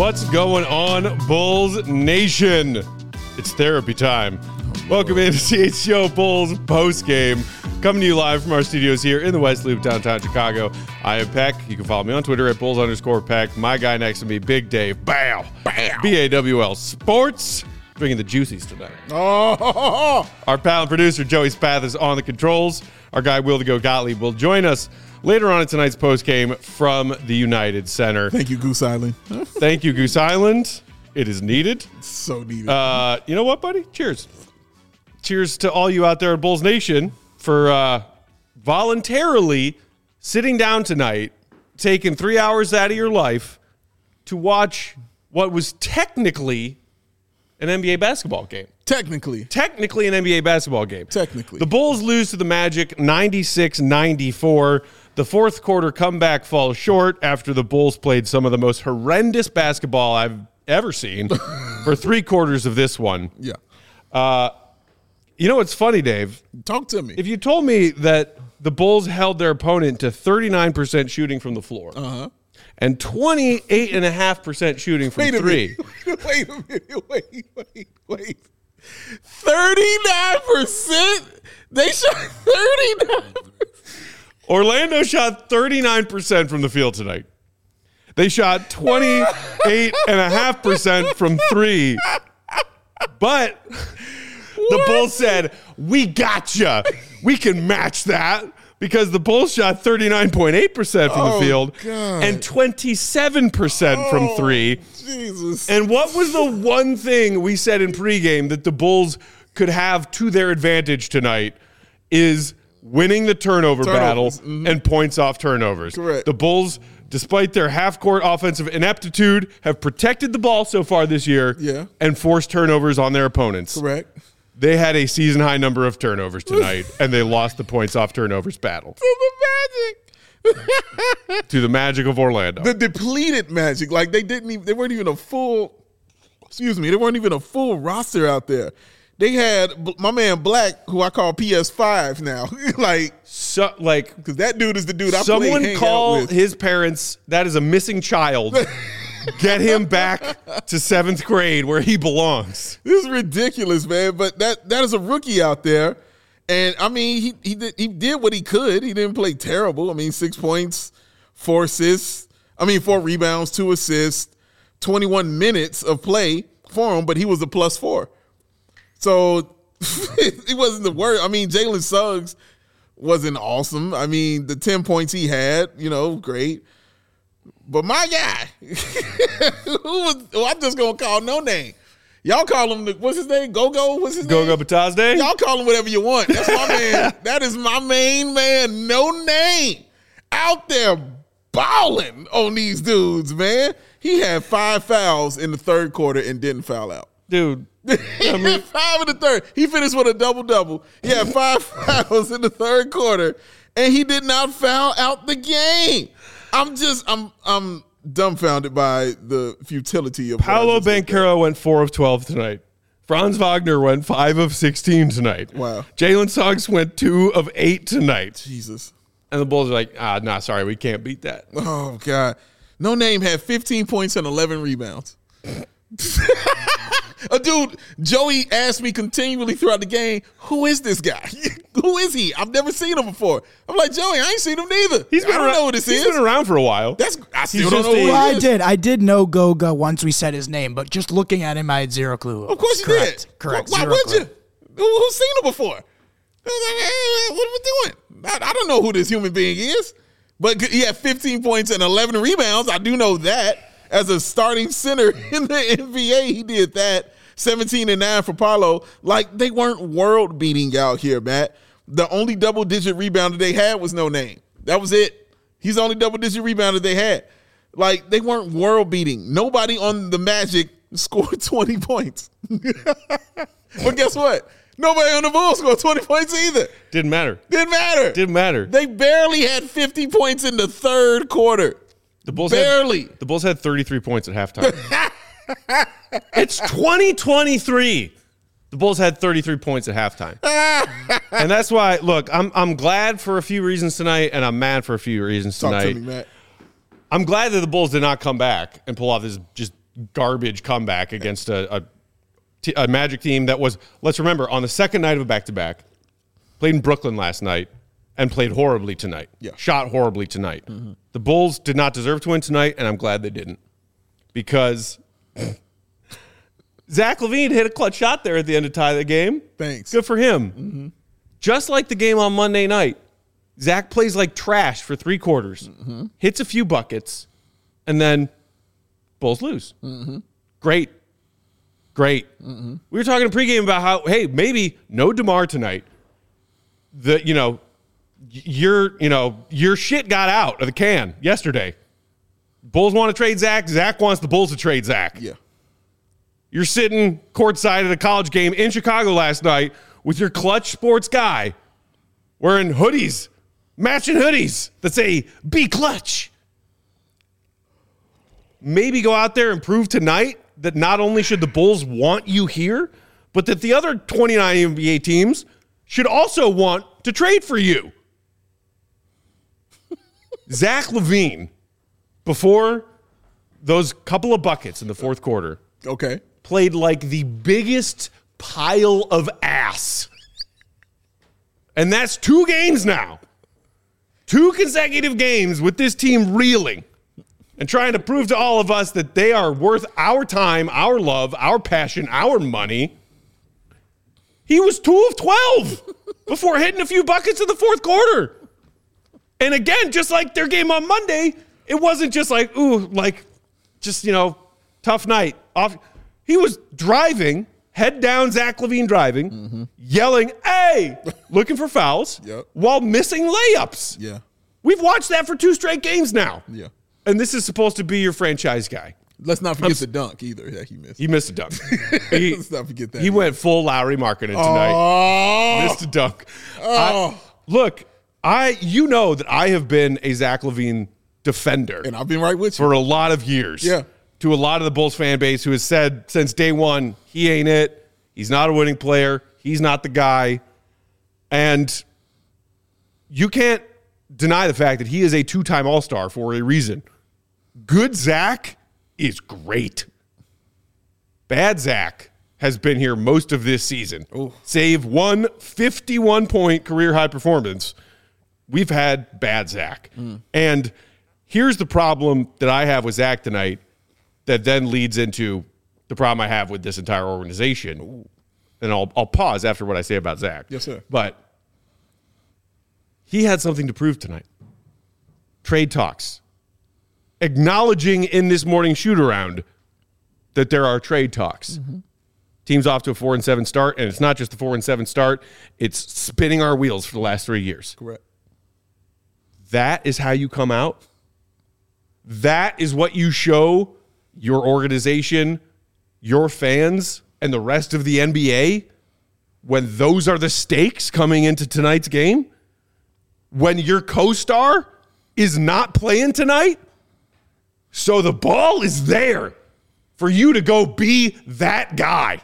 What's going on, Bulls Nation? It's therapy time. Welcome into CHGO Bulls postgame. Coming to you live from our studios here in the West Loop, downtown Chicago. I am Peck. You can follow me on Twitter at Bulls_Peck. My guy next to me, Big Dave. Bow. BAWL Sports. Drinking the juicies tonight. Oh. Our pal and producer, Joey Spath, is on the controls. Our guy, Will to Go Gottlieb, will join us later on in tonight's postgame from the United Center. Thank you, Goose Island. Thank you, Goose Island. It is needed. It's so needed. You know what, buddy? Cheers. Cheers to all you out there at Bulls Nation for voluntarily sitting down tonight, taking 3 hours out of your life to watch what was technically an NBA basketball game. Technically an NBA basketball game. Technically. The Bulls lose to the Magic 96-94. The fourth quarter comeback falls short after the Bulls played some of the most horrendous basketball I've ever seen for 3 quarters of this one. Yeah. You know what's funny, Dave? Talk to me. If you told me that the Bulls held their opponent to 39% shooting from the floor and 28.5% shooing from three. Wait a minute. Wait. 39%? They shot 39%. Orlando shot 39% from the field tonight. They shot 28.5% from three. But the Bulls said, we gotcha. We can match that. Because the Bulls shot 39.8% from the field and 27% from three. Jesus. And what was the one thing we said in pregame that the Bulls could have to their advantage tonight is winning the turnover battle and points off turnovers. Correct. The Bulls, despite their half-court offensive ineptitude, have protected the ball so far this year and forced turnovers on their opponents. Correct. They had a season-high number of turnovers tonight, and they lost the points off turnovers battle. To the Magic. To the Magic of Orlando. The depleted Magic. Like, they weren't even a full roster out there. They had my man Black, who I call PS5 now. Because that dude is the dude I play hang out with. Someone call his parents, that is a missing child. Get him back to 7th grade where he belongs. This is ridiculous, man. But that is a rookie out there. And, I mean, he did what he could. He didn't play terrible. I mean, 6 points, 4 assists. 4 rebounds, 2 assists, 21 minutes of play for him, but he was a +4. So it wasn't the worst. I mean, Jalen Suggs wasn't awesome. I mean, the 10 points he had, great. But my guy, I'm just going to call no name. Y'all call him, what's his name? Go-Go? What's his name? Go-Go Batazde? Y'all call him whatever you want. That's my man. That is my main man. No name. Out there balling on these dudes, man. He had 5 fouls in the third quarter and didn't foul out. Dude. He had 5 in the third. He finished with a double-double. He had 5 fouls in the third quarter, and he did not foul out the game. I'm dumbfounded by the futility of Paolo Banchero went 4 of 12 tonight. Franz Wagner went 5 of 16 tonight. Wow. Jalen Suggs went 2 of 8 tonight. Jesus. And the Bulls are like, sorry, we can't beat that. Oh, God. No Name had 15 points and 11 rebounds. A dude, Joey asked me continually throughout the game, who is this guy? Who is he? I've never seen him before. I'm like, Joey, I ain't seen him neither. I don't know who this is. He's been around for a while. I still don't know who he is. I did know Goga once we said his name, but just looking at him, I had zero clue. Of course you did. Correct. Why would you? Who's seen him before? I was like, hey, what are we doing? I don't know who this human being is. But he had 15 points and 11 rebounds. I do know that. As a starting center in the NBA, he did that. 17-9 for Paolo. Like, they weren't world-beating out here, Matt. The only double-digit rebounder they had was No Name. That was it. He's the only double-digit rebounder they had. Like, they weren't world-beating. Nobody on the Magic scored 20 points. But guess what? Nobody on the Bulls scored 20 points either. Didn't matter. Didn't matter. They barely had 50 points in the third quarter. The Bulls barely. The Bulls had 33 points at halftime. It's 2023. The Bulls had 33 points at halftime. And that's why, look, I'm glad for a few reasons tonight, and I'm mad for a few reasons tonight. Talk to me, Matt. I'm glad that the Bulls did not come back and pull off this just garbage comeback against a Magic team that was, let's remember, on the second night of a back-to-back, played in Brooklyn last night and played horribly tonight. Yeah. Shot horribly tonight. Mm-hmm. The Bulls did not deserve to win tonight, and I'm glad they didn't. Because Zach LaVine hit a clutch shot there at the end to tie the game. Thanks. Good for him. Mm-hmm. Just like the game on Monday night, Zach plays like trash for 3 quarters, hits a few buckets, and then Bulls lose. Mm-hmm. Great. Mm-hmm. We were talking in pregame about how, hey, maybe no DeMar tonight. Your shit got out of the can yesterday. Bulls want to trade Zach. Zach wants the Bulls to trade Zach. Yeah. You're sitting courtside at a college game in Chicago last night with your Clutch Sports guy wearing hoodies, matching hoodies that say, be clutch. Maybe go out there and prove tonight that not only should the Bulls want you here, but that the other 29 NBA teams should also want to trade for you. Zach LaVine, before those couple of buckets in the fourth quarter, played like the biggest pile of ass. And that's 2 games now. 2 consecutive games with this team reeling and trying to prove to all of us that they are worth our time, our love, our passion, our money. He was 2 of 12 before hitting a few buckets in the fourth quarter. And again, just like their game on Monday, it wasn't just like, tough night. He was driving, head down, Zach LaVine driving, yelling, hey, looking for fouls while missing layups. Yeah. We've watched that for 2 straight games now. Yeah. And this is supposed to be your franchise guy. Let's not forget the dunk either that he missed. He missed a dunk. Let's not forget that. He went full Lowry Markkanen tonight. Missed a dunk. You know that I have been a Zach LaVine defender. And I've been right with you. For a lot of years. Yeah. To a lot of the Bulls fan base who has said since day one, he ain't it. He's not a winning player. He's not the guy. And you can't deny the fact that he is a 2-time All-Star for a reason. Good Zach is great. Bad Zach has been here most of this season. Ooh. Save one 51-point career-high performance, we've had bad Zach. And here's the problem that I have with Zach tonight that then leads into the problem I have with this entire organization. Ooh. And I'll pause after what I say about Zach. Yes, sir. But he had something to prove tonight. Trade talks. Acknowledging in this morning shoot-around that there are trade talks. Team's off to a 4-7 start, and it's not just the 4-7 start. It's spinning our wheels for the last 3 years. Correct. That is how you come out. That is what you show your organization, your fans, and the rest of the NBA when those are the stakes coming into tonight's game. When your co-star is not playing tonight, so the ball is there for you to go be that guy.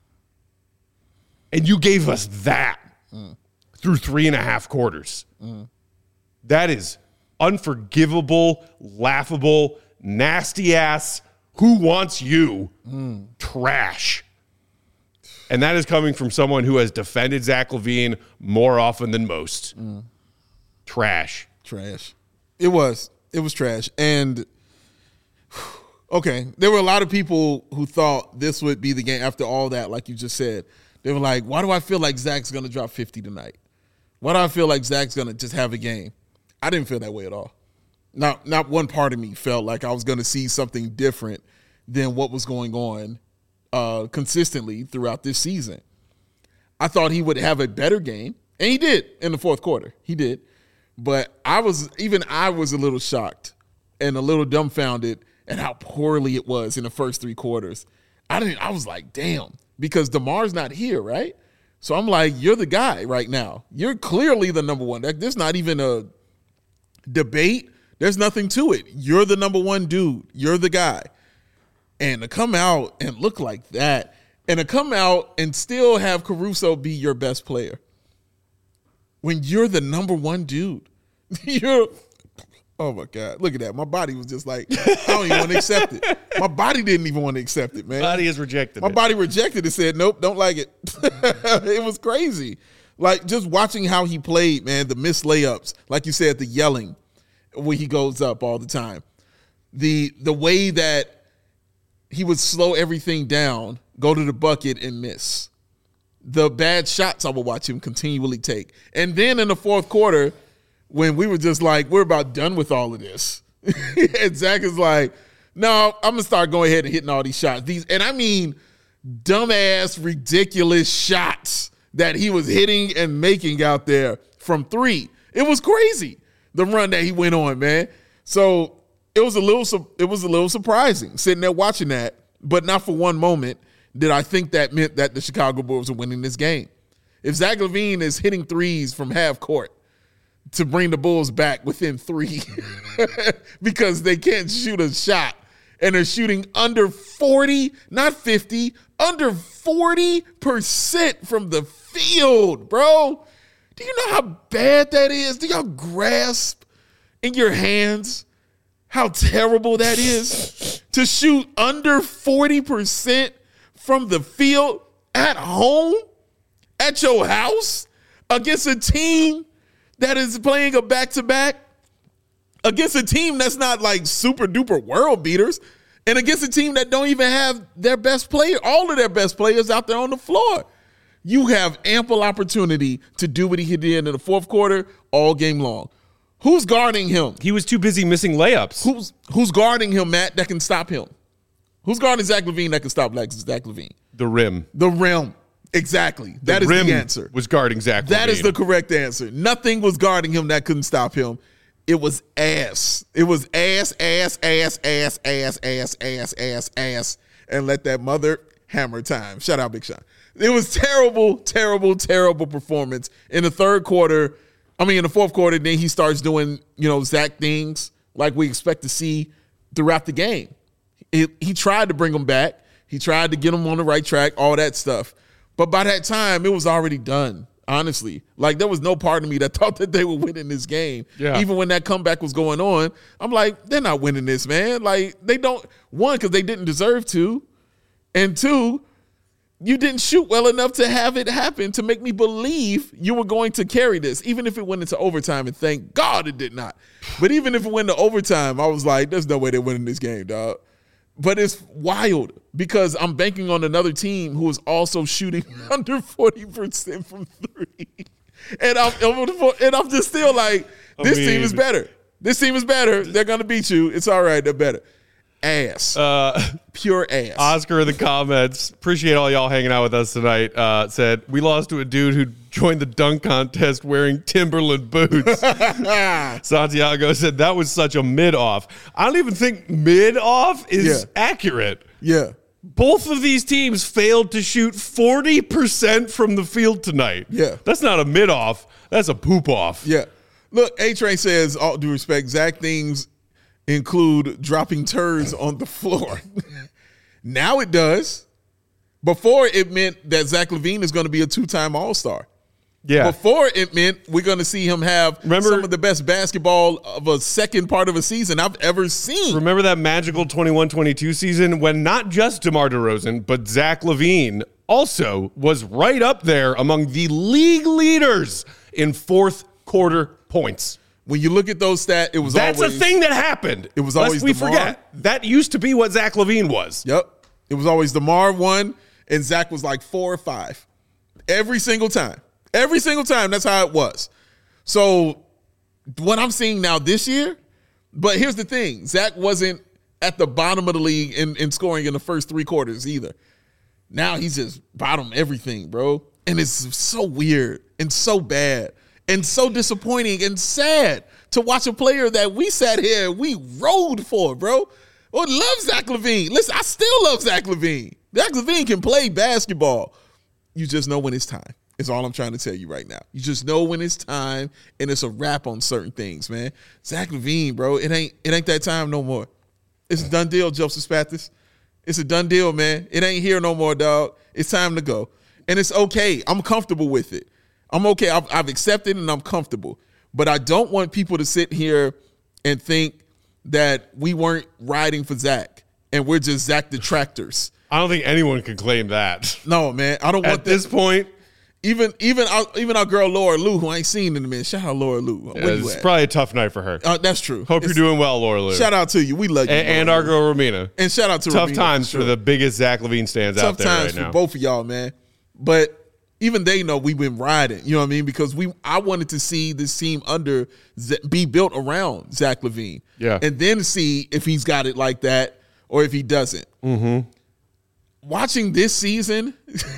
And you gave us that through 3.5 quarters. That is unforgivable, laughable, nasty ass, who wants you trash. And that is coming from someone who has defended Zach LaVine more often than most. Trash. It was trash. And okay, there were a lot of people who thought this would be the game after all that, like you just said. They were like, why do I feel like Zach's going to drop 50 tonight? Why do I feel like Zach's going to just have a game? I didn't feel that way at all. Not one part of me felt like I was going to see something different than what was going on consistently throughout this season. I thought he would have a better game, and he did in the fourth quarter. He did. But I was a little shocked and a little dumbfounded at how poorly it was in the first 3 quarters. I was like, damn, because DeMar's not here, right? So I'm like, you're the guy right now. You're clearly the number one. There's not even a debate. There's nothing to it. You're the number one dude. You're the guy. And to come out and look like that, and to come out and still have Caruso be your best player when you're the number one dude. Oh, my God. Look at that. My body was just like, I don't even want to accept it. My body didn't even want to accept it, man. Body has rejected My it. body rejected it, said, nope, don't like it. It was crazy. Like, just watching how he played, man, the missed layups, like you said, the yelling when he goes up all the time. The way that he would slow everything down, go to the bucket and miss. The bad shots I would watch him continually take. And then in the fourth quarter, when we were just like, we're about done with all of this. And Zach is like, no, I'm going to start going ahead and hitting all these shots. And I mean dumbass, ridiculous shots that he was hitting and making out there from three. It was crazy, the run that he went on, man. So it was a little surprising sitting there watching that, but not for one moment did I think that meant that the Chicago Bulls were winning this game. If Zach LaVine is hitting threes from half court to bring the Bulls back within three because they can't shoot a shot and they're shooting under 40, not 50, under 40% from the field, bro. Do you know how bad that is? Do y'all grasp in your hands how terrible that is? To shoot under 40% from the field at home, at your house, against a team that is playing a back-to-back, against a team that's not like super-duper world beaters, and against a team that don't even have their best player, all of their best players out there on the floor. You have ample opportunity to do what he did in the fourth quarter all game long. Who's guarding him? He was too busy missing layups. Who's guarding him, Matt, that can stop him? Who's guarding Zach LaVine that can stop Zach LaVine? The rim. The rim. Exactly. That is the answer. Was guarding Zach LaVine. That is the correct answer. Nothing was guarding him that couldn't stop him. It was ass. It was ass, and let that mother hammer time. Shout out Big Sean. It was terrible, terrible, terrible performance in the third quarter. I mean, in the fourth quarter, then he starts doing, Zach things like we expect to see throughout the game. He tried to bring him back. He tried to get him on the right track, all that stuff. But by that time, it was already done, honestly. Like, there was no part of me that thought that they were winning this game. Yeah. Even when that comeback was going on, I'm like, they're not winning this, man. Like, they don't – one, because they didn't deserve to. And two, you didn't shoot well enough to have it happen to make me believe you were going to carry this, even if it went into overtime, and thank God it did not. But even if it went to overtime, I was like, there's no way they're winning this game, dog. But it's wild because I'm banking on another team who is also shooting under 40% from three. And I'm just still like, this team is better. This team is better. They're going to beat you. It's all right. They're better. Ass. Pure ass. Oscar in the comments, appreciate all y'all hanging out with us tonight, said, we lost to a dude who joined the dunk contest wearing Timberland boots. Santiago said, that was such a mid-off. I don't even think mid-off is accurate. Yeah. Both of these teams failed to shoot 40% from the field tonight. Yeah. That's not a mid-off. That's a poop-off. Yeah. Look, A-Train says, all due respect, Zach things include dropping turds on the floor. Now it does. Before it meant that Zach LaVine is going to be a two-time All-Star. Yeah. Before it meant we're going to see him have some of the best basketball of a second part of a season I've ever seen. Remember that magical 21-22 season when not just DeMar DeRozan, but Zach LaVine also was right up there among the league leaders in fourth quarter points. When you look at those stats, it was That's always... a thing that happened. It was always Lest we DeMar. forget. That used to be what Zach LaVine was. Yep. It was always DeMar 1, and Zach was like 4 or 5. Every single time. Every single time, that's how it was. So what I'm seeing now this year, but here's the thing. Zach wasn't at the bottom of the league in scoring in the first 3 quarters either. Now he's just bottom everything, bro. And it's so weird and so bad and so disappointing and sad to watch a player that we sat here and we rode for, bro. Well, love Zach LaVine. Listen, I still love Zach LaVine. Zach LaVine can play basketball. You just know when it's time. Is all I'm trying to tell you right now. You just know when it's time, and it's a wrap on certain things, man. Zach LaVine, bro, it ain't that time no more. It's a done deal, Joseph Spathis. It's a done deal, man. It ain't here no more, dog. It's time to go. And it's okay. I'm comfortable with it. I'm okay. I've accepted and I'm comfortable. But I don't want people to sit here and think that we weren't riding for Zach and we're just Zach detractors. I don't think anyone can claim that. No, man. I don't want At this point, Even our girl Laura Lou, who I ain't seen in a minute. Shout out Laura Lou. it's probably a tough night for her. That's true. Hope you're doing well, Laura Lou. Shout out to you. We love you. And our girl Romina. And shout out to Tough Romina, times sure. for the biggest Zach LaVine stands out there right Tough times now. for both of y'all, man. But even they know we've been riding. You know what I mean? Because I wanted to see this team be built around Zach LaVine. Yeah. And then see if he's got it like that or if he doesn't. Mm-hmm. Watching this season,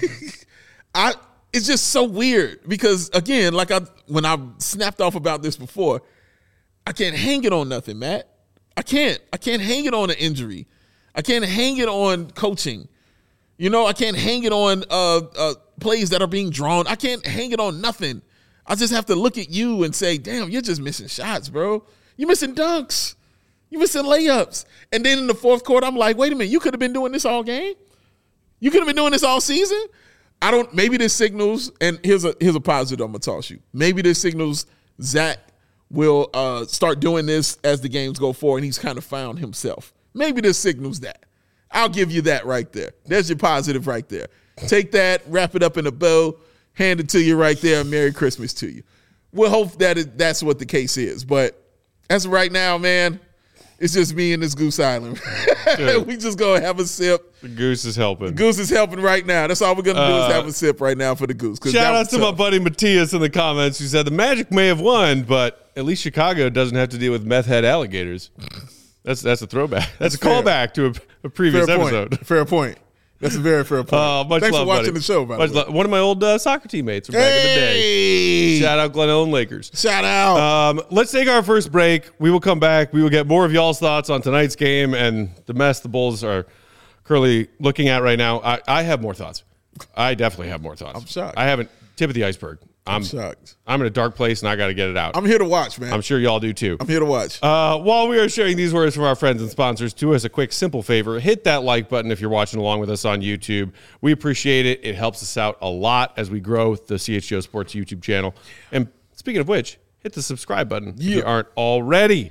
it's just so weird because, again, when I snapped off about this before, I can't hang it on nothing, Matt. I can't hang it on an injury. I can't hang it on coaching. I can't hang it on plays that are being drawn. I can't hang it on nothing. I just have to look at you and say, damn, you're just missing shots, bro. You're missing dunks. You're missing layups. And then in the fourth quarter, I'm like, wait a minute, you could have been doing this all game? You could have been doing this all season? Maybe this signals, and here's a positive I'm going to toss you. Maybe this signals Zach will start doing this as the games go forward, and he's kind of found himself. Maybe this signals that. I'll give you that right there. There's your positive right there. Take that, wrap it up in a bow, hand it to you right there, and Merry Christmas to you. We'll hope that's what the case is. But as of right now, man, it's just me and this Goose Island. We just go have a sip. The Goose is helping. Goose is helping right now. That's all we're going to do is have a sip right now for the Goose. Shout out to my buddy Matthias in the comments who said the Magic may have won, but at least Chicago doesn't have to deal with meth head alligators. That's a throwback. That's a callback to a previous episode. Fair point. That's a very fair point. Much Thanks love, for watching buddy. the show, by the way. One of my old soccer teammates from back in the day. Shout out Glen Ellen Lakers. Shout out. Let's take our first break. We will come back. We will get more of y'all's thoughts on tonight's game and the mess the Bulls are currently looking at right now. I have more thoughts. I definitely have more thoughts. I'm shocked. I haven't. Tip of the iceberg. I'm shocked. I'm in a dark place and I got to get it out. I'm here to watch, man. I'm sure y'all do too. I'm here to watch. While we are sharing these words from our friends and sponsors, do us a quick, simple favor. Hit that like button if you're watching along with us on YouTube. We appreciate it. It helps us out a lot as we grow the CHGO Sports YouTube channel. And speaking of which, hit the subscribe button if you aren't already.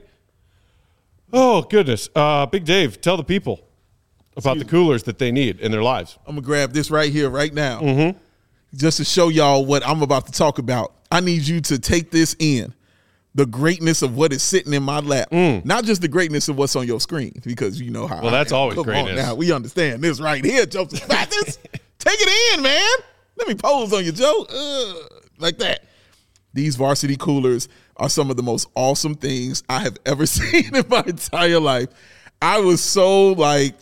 Oh, goodness. Big Dave, tell the people about the coolers that they need in their lives. I'm going to grab this right here, right now. Mm-hmm. Just to show y'all what I'm about to talk about. I need you to take this in. The greatness of what is sitting in my lap. Not just the greatness of what's on your screen, because you know how. Well, that's always Come greatness. on now, we understand this right here, Joseph Mathis. Take it in, man. Let me pose on you, Joe. Like that. These varsity coolers are some of the most awesome things I have ever seen in my entire life. I was so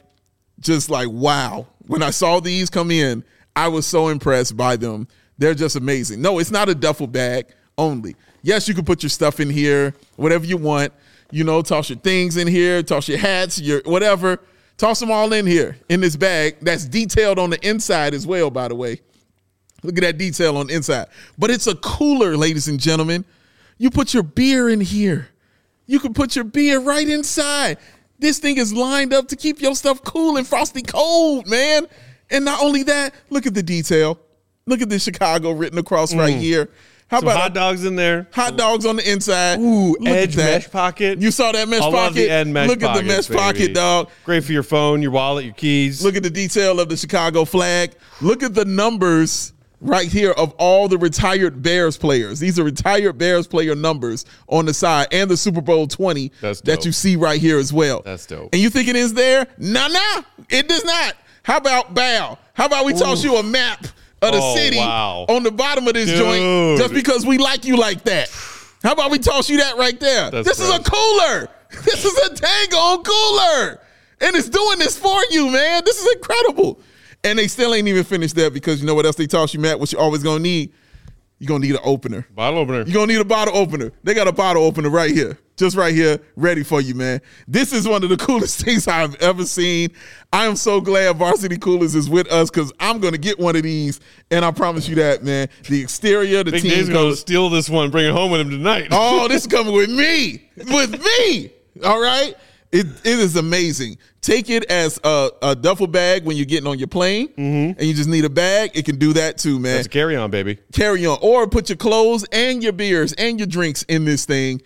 just like, wow. When I saw these come in, I was so impressed by them. They're just amazing. No, it's not a duffel bag only. Yes, you can put your stuff in here, whatever you want. Toss your things in here, toss your hats, your whatever. Toss them all in here in this bag that's detailed on the inside as well, by the way. Look at that detail on the inside. But it's a cooler, ladies and gentlemen. You put your beer in here. You can put your beer right inside. This thing is lined up to keep your stuff cool and frosty cold, man. And not only that, look at the detail. Look at the Chicago written across right here. How Some about hot dogs in there? Hot dogs on the inside. Ooh, Look edge at that. mesh pocket. You saw that mesh I pocket? love the end mesh Look at the mesh pockets, pocket, baby. dog. Great for your phone, your wallet, your keys. Look at the detail of the Chicago flag. Look at the numbers right here of all the retired Bears players. These are retired Bears player numbers on the side, and the Super Bowl 20 that you see right here as well. That's dope. And you think it is there? Nah, it does not. How about Bow? How about we toss you a map of the city on the bottom of this joint just because we like you like that? How about we toss you that right there? This is a cooler. This is a dang-on cooler. And it's doing this for you, man. This is incredible. And they still ain't even finished that because you know what else they toss you, Matt? What you always going to need? You're going to need an opener. Bottle opener. You're going to need a bottle opener. They got a bottle opener right here. Just right here, ready for you, man. This is one of the coolest things I've ever seen. I am so glad Varsity Coolers is with us because I'm going to get one of these, and I promise you that, man. The exterior, the Big team Dave's going to steal this one and bring it home with him tonight. Oh, this is coming with me. With me. All right? It is amazing. Take it as a duffel bag when you're getting on your plane, and you just need a bag. It can do that too, man. That's carry on, baby. Carry on. Or put your clothes and your beers and your drinks in this thing.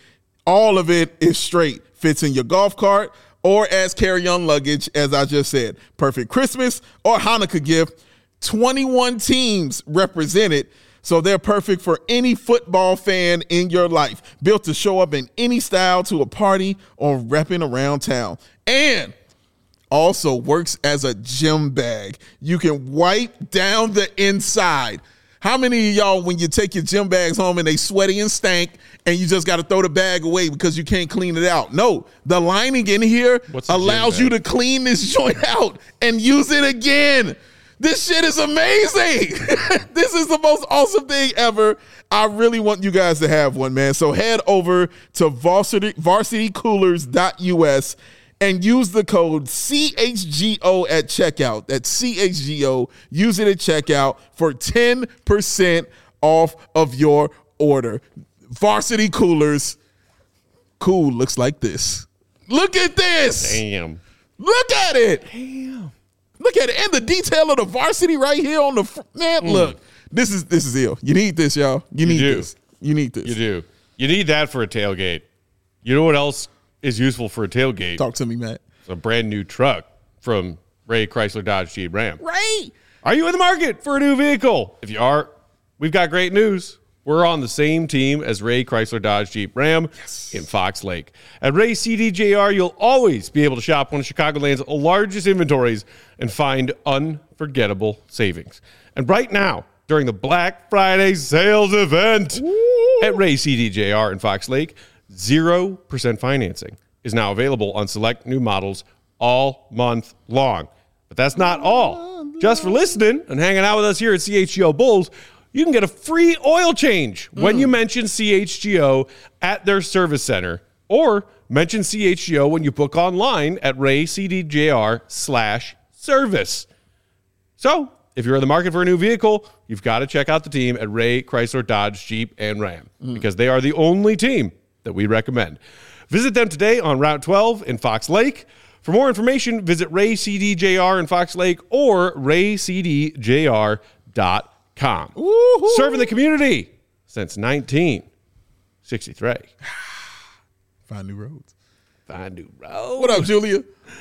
All of it is straight. Fits in your golf cart or as carry-on luggage, as I just said. Perfect Christmas or Hanukkah gift. 21 teams represented, so they're perfect for any football fan in your life. Built to show up in any style to a party or repping around town. And also works as a gym bag. You can wipe down the inside. How many of y'all, when you take your gym bags home and they sweaty and stank and you just got to throw the bag away because you can't clean it out? No, the lining in here allows you to clean this joint out and use it again. This shit is amazing. This is the most awesome thing ever. I really want you guys to have one, man. So head over to varsitycoolers.us and use the code CHGO at checkout. That's CHGO. Use it at checkout for 10% off of your order. Varsity Coolers. Cool looks like this. Look at this. Damn. Look at it. Damn. Look at it. And the detail of the varsity right here on the man. Look, this is ill. You need this, y'all. You need this. You need this. You do. You need that for a tailgate. You know what else is useful for a tailgate? Talk to me, Matt. It's a brand new truck from Ray Chrysler Dodge Jeep Ram. Ray. Are you in the market for a new vehicle? If you are, we've got great news. We're on the same team as Ray Chrysler Dodge Jeep Ram in Fox Lake. At Ray CDJR, you'll always be able to shop one of Chicagoland's largest inventories and find unforgettable savings. And right now, during the Black Friday sales event at Ray CDJR in Fox Lake, 0% financing is now available on select new models all month long. But that's not all. Just for listening and hanging out with us here at CHGO Bulls, you can get a free oil change when you mention CHGO at their service center, or mention CHGO when you book online at raycdjr/service. So if you're in the market for a new vehicle, you've got to check out the team at Ray Chrysler Dodge Jeep and Ram because they are the only team that we recommend. Visit them today on Route 12 in Fox Lake. For more information, visit Ray CDJR in Fox Lake or raycdjr.com. Serving the community since 1963. Find new roads. Find new roads. What up, Julia?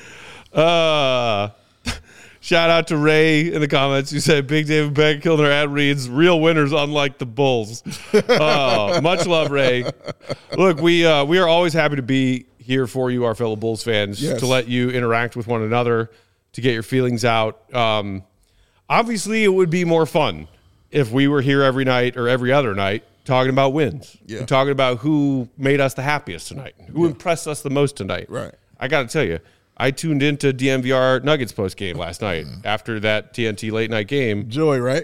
Shout out to Ray in the comments who said Big David Beck killed their ad reads. Real winners, unlike the Bulls. Much love, Ray. Look, we are always happy to be here for you, our fellow Bulls fans, to let you interact with one another, to get your feelings out. Obviously, it would be more fun if we were here every night or every other night talking about wins, and talking about who made us the happiest tonight, who impressed us the most tonight. Right. I got to tell you, I tuned into DMVR Nuggets post game last night after that TNT late night game. Joy, right?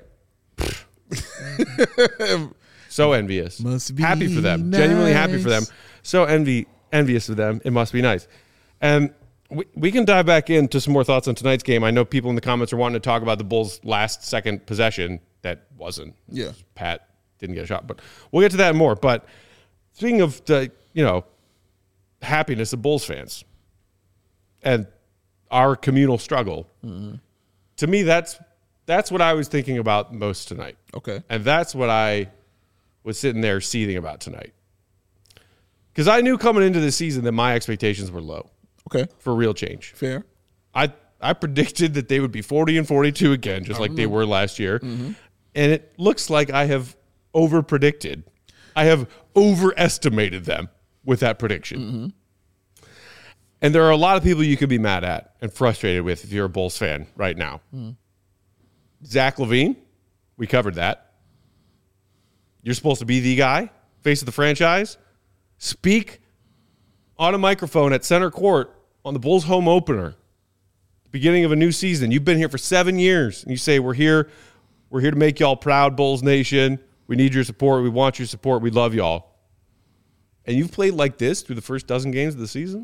So envious. Must be happy for them. nice. Genuinely happy for them. So envious of them. It must be nice. And we can dive back into some more thoughts on tonight's game. I know people in the comments are wanting to talk about the Bulls' last second possession. That wasn't. Yeah. Pat didn't get a shot, but we'll get to that and more. But speaking of the, happiness of Bulls fans and our communal struggle, to me, that's what I was thinking about most tonight. Okay. And that's what I was sitting there seething about tonight. Because I knew coming into the season that my expectations were low. Okay. For real change. Fair. I predicted that they would be 40-42 again, just like they were last year. Mm-hmm. And it looks like I have over-predicted. I have overestimated them with that prediction. Mm-hmm. And there are a lot of people you could be mad at and frustrated with if you're a Bulls fan right now. Mm. Zach LaVine, we covered that. You're supposed to be the guy, face of the franchise. Speak on a microphone at center court on the Bulls home opener, beginning of a new season. You've been here for 7 years, and you say, we're here to make y'all proud, Bulls Nation. We need your support. We want your support. We love y'all. And you've played like this through the first dozen games of the season?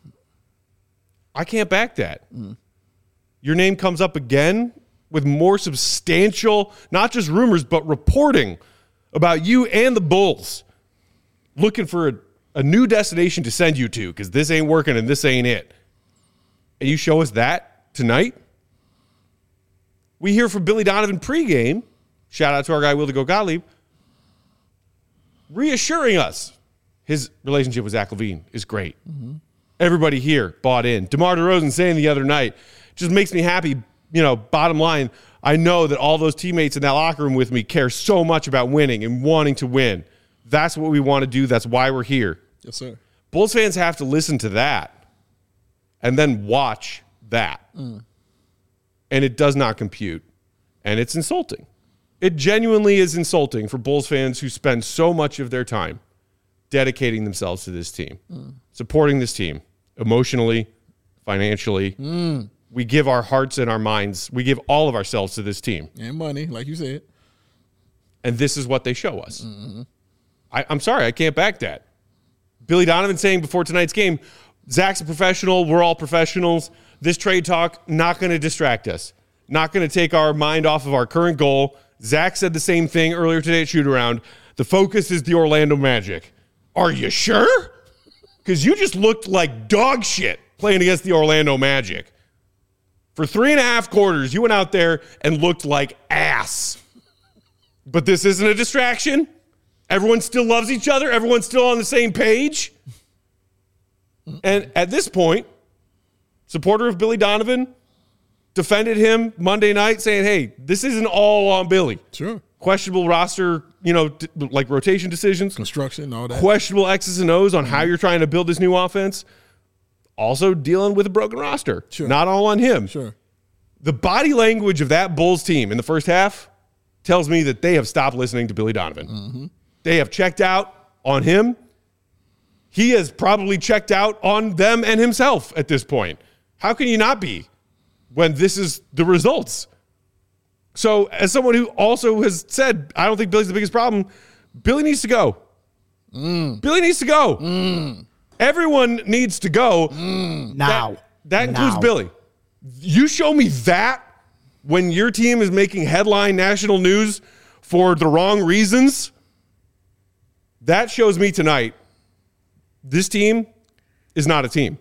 I can't back that. Mm. Your name comes up again with more substantial, not just rumors, but reporting about you and the Bulls looking for a new destination to send you to because this ain't working and this ain't it. And you show us that tonight? We hear from Billy Donovan pregame, shout out to our guy Will to Go Gottlieb, reassuring us his relationship with Zach LaVine is great. Mm-hmm. Everybody here bought in. DeMar DeRozan saying the other night, just makes me happy. Bottom line, I know that all those teammates in that locker room with me care so much about winning and wanting to win. That's what we want to do. That's why we're here. Yes, sir. Bulls fans have to listen to that and then watch that. And it does not compute. And it's insulting. It genuinely is insulting for Bulls fans who spend so much of their time dedicating themselves to this team, supporting this team emotionally, financially. We give our hearts and our minds. We give all of ourselves to this team. And money, like you said. And this is what they show us. I'm sorry, I can't back that. Billy Donovan saying before tonight's game, Zach's a professional. We're all professionals. This trade talk, not going to distract us. Not going to take our mind off of our current goal. Zach said the same thing earlier today at shoot-around. The focus is the Orlando Magic. Are you sure? Because you just looked like dog shit playing against the Orlando Magic. For 3.5 quarters, you went out there and looked like ass. But this isn't a distraction. Everyone still loves each other. Everyone's still on the same page. And at this point, supporter of Billy Donovan defended him Monday night saying, hey, this isn't all on Billy. Sure. Questionable roster, like rotation decisions. Construction, all that. Questionable X's and O's on how you're trying to build this new offense. Also dealing with a broken roster. Sure. Not all on him. Sure. The body language of that Bulls team in the first half tells me that they have stopped listening to Billy Donovan. They have checked out on him. He has probably checked out on them and himself at this point. How can you not be when this is the results? So as someone who also has said, I don't think Billy's the biggest problem, Billy needs to go. Billy needs to go. Everyone needs to go. Now. That includes Now. Billy. You show me that when your team is making headline national news for the wrong reasons, that shows me tonight this team is not a team.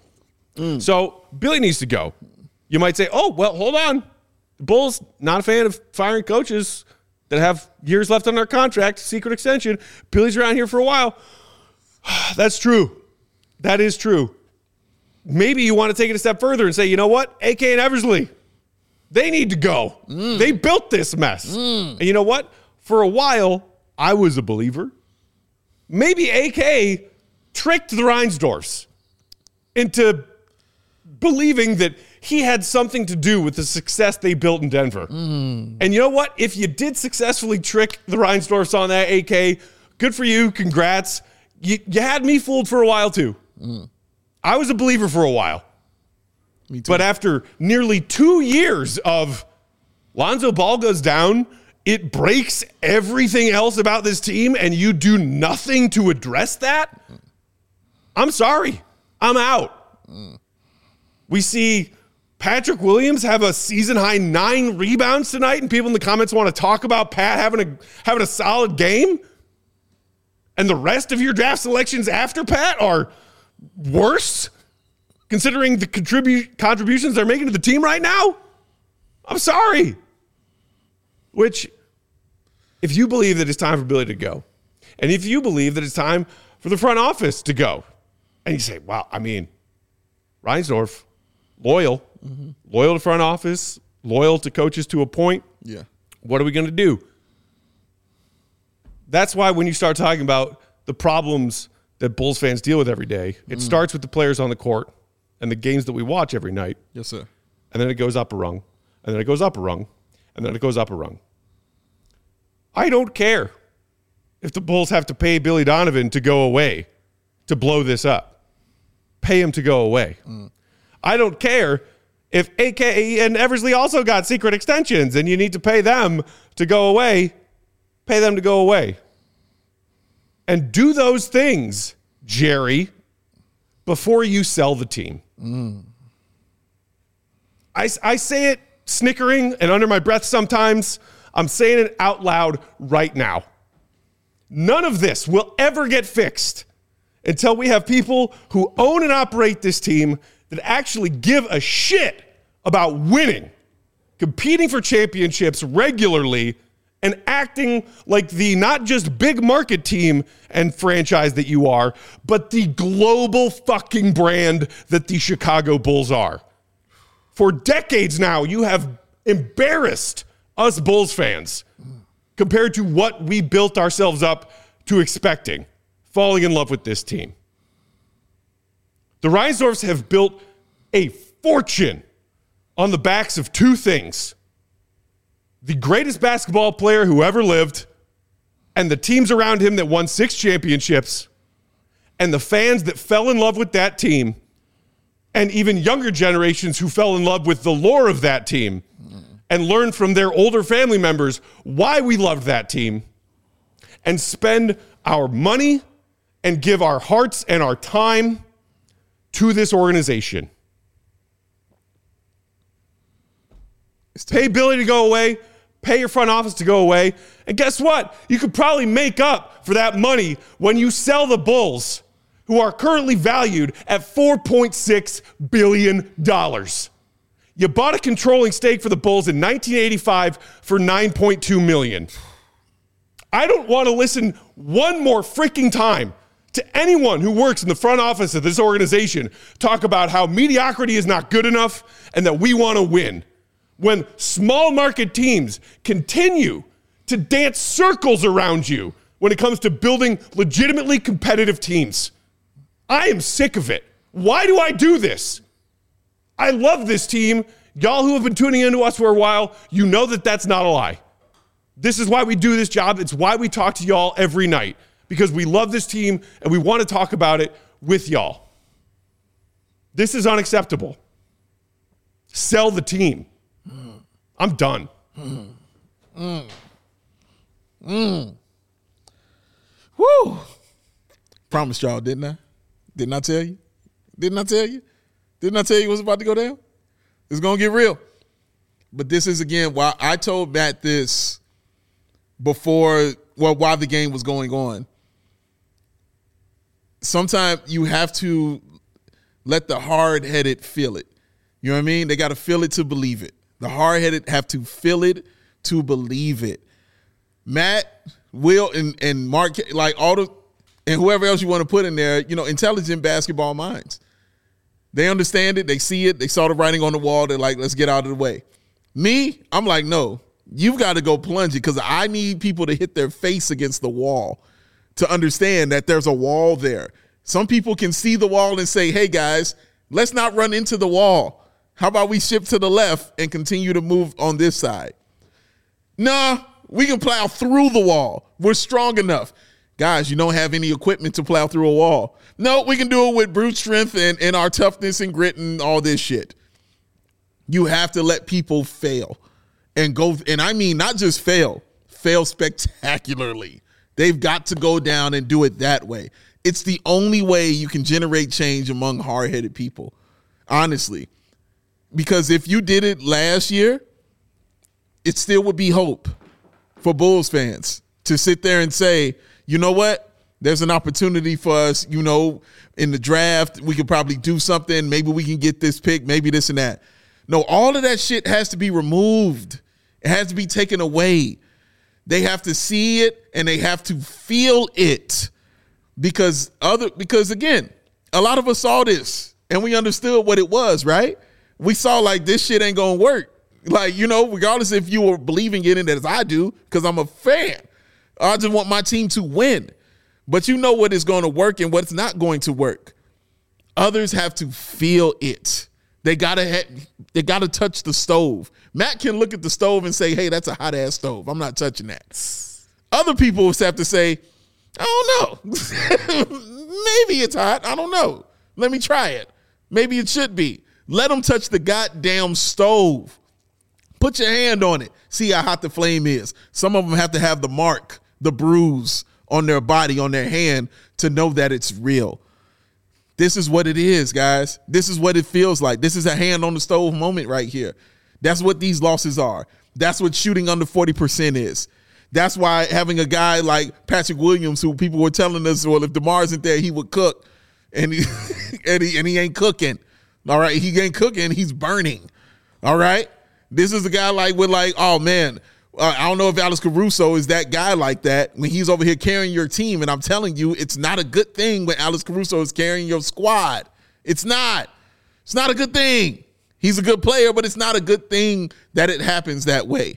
So Billy needs to go. You might say, oh, well, hold on. The Bulls, not a fan of firing coaches that have years left on their contract, secret extension. Billy's around here for a while. That's true. That is true. Maybe you want to take it a step further and say, you know what? AK and Eversley, they need to go. They built this mess. And you know what? For a while, I was a believer. Maybe AK tricked the Reinsdorfs into believing that he had something to do with the success they built in Denver. And you know what? If you did successfully trick the Reinsdorfs on that, AK, good for you. Congrats. You had me fooled for a while, too. I was a believer for a while. Me too. But after nearly 2 years of Lonzo Ball goes down, it breaks everything else about this team, and you do nothing to address that? I'm sorry. I'm out. We see Patrick Williams have a season-high 9 rebounds tonight, and people in the comments want to talk about Pat having a solid game? And the rest of your draft selections after Pat are worse, considering the contributions they're making to the team right now? I'm sorry. Which, if you believe that it's time for Billy to go, and if you believe that it's time for the front office to go, and you say, well, I mean, Reinsdorf, loyal to front office, loyal to coaches to a point. Yeah. What are we going to do? That's why when you start talking about the problems that Bulls fans deal with every day, it starts with the players on the court and the games that we watch every night. Yes, sir. And then it goes up a rung. And then it goes up a rung. And then it goes up a rung. I don't care if the Bulls have to pay Billy Donovan to go away to blow this up. Pay him to go away. I don't care if AK and Eversley also got secret extensions and you need to pay them to go away. Pay them to go away. And do those things, Jerry, before you sell the team. I say it snickering and under my breath sometimes. I'm saying it out loud right now. None of this will ever get fixed until we have people who own and operate this team that actually give a shit about winning, competing for championships regularly, and acting like the not just big market team and franchise that you are, but the global fucking brand that the Chicago Bulls are. For decades now, you have embarrassed us Bulls fans compared to what we built ourselves up to expecting, falling in love with this team. The Reinsdorfs have built a fortune on the backs of two things: the greatest basketball player who ever lived, and the teams around him that won 6 championships, and the fans that fell in love with that team, and even younger generations who fell in love with the lore of that team and learned from their older family members why we loved that team, and spend our money and give our hearts and our time to this organization. Pay Billy to go away, pay your front office to go away, and guess what? You could probably make up for that money when you sell the Bulls, who are currently valued at $4.6 billion. You bought a controlling stake for the Bulls in 1985 for $9.2 million. I don't want to listen one more freaking time to anyone who works in the front office of this organization talk about how mediocrity is not good enough and that we want to win, when small market teams continue to dance circles around you when it comes to building legitimately competitive teams. I am sick of it. Why do I do this? I love this team. Y'all who have been tuning into us for a while, you know that that's not a lie. This is why we do this job. It's why we talk to y'all every night, because we love this team and we want to talk about it with y'all. This is unacceptable. Sell the team. I'm done. Woo! Promised y'all, didn't I? Didn't I tell you? Didn't I tell you? Didn't I tell you it was about to go down? It's going to get real. But this is, again, why I told Matt this while the game was going on. Sometimes you have to let the hard-headed feel it. You know what I mean? They got to feel it to believe it. The hard-headed have to feel it to believe it. Matt, Will, and Mark, like and whoever else you want to put in there, intelligent basketball minds. They understand it. They see it. They saw the writing on the wall. They're like, let's get out of the way. Me, I'm like, no, you've got to go plunge it, because I need people to hit their face against the wall to understand that there's a wall there. Some people can see the wall and say, hey, guys, let's not run into the wall. How about we shift to the left and continue to move on this side? Nah, we can plow through the wall. We're strong enough. Guys, you don't have any equipment to plow through a wall. No, we can do it with brute strength and our toughness and grit and all this shit. You have to let people fail and go. And I mean, not just fail spectacularly. They've got to go down and do it that way. It's the only way you can generate change among hard-headed people, honestly. Because if you did it last year, it still would be hope for Bulls fans to sit there and say, you know what? There's an opportunity for us, in the draft. We could probably do something. Maybe we can get this pick, maybe this and that. No, all of that shit has to be removed. It has to be taken away. They have to see it and they have to feel it. Because again, a lot of us saw this and we understood what it was, right? We saw like this shit ain't gonna work. Like, regardless if you were believing in it as I do, because I'm a fan. I just want my team to win. But you know what is going to work and what's not going to work. Others have to feel it. They gotta touch the stove. Matt can look at the stove and say, hey, that's a hot ass stove. I'm not touching that. Other people have to say, I don't know. Maybe it's hot. I don't know. Let me try it. Maybe it should be. Let them touch the goddamn stove. Put your hand on it. See how hot the flame is. Some of them have to have the mark, the bruise on their body, on their hand, to know that it's real. This is what it is, guys. This is what it feels like. This is a hand on the stove moment right here. That's what these losses are. That's what shooting under 40% is. That's why having a guy like Patrick Williams, who people were telling us, well, if DeMar isn't there, he would cook, and he ain't cooking. All right, he ain't cooking. He's burning. All right. This is a guy with oh man, I don't know if Alex Caruso is that guy like that when he's over here carrying your team. And I'm telling you, it's not a good thing when Alex Caruso is carrying your squad. It's not. It's not a good thing. He's a good player, but it's not a good thing that it happens that way.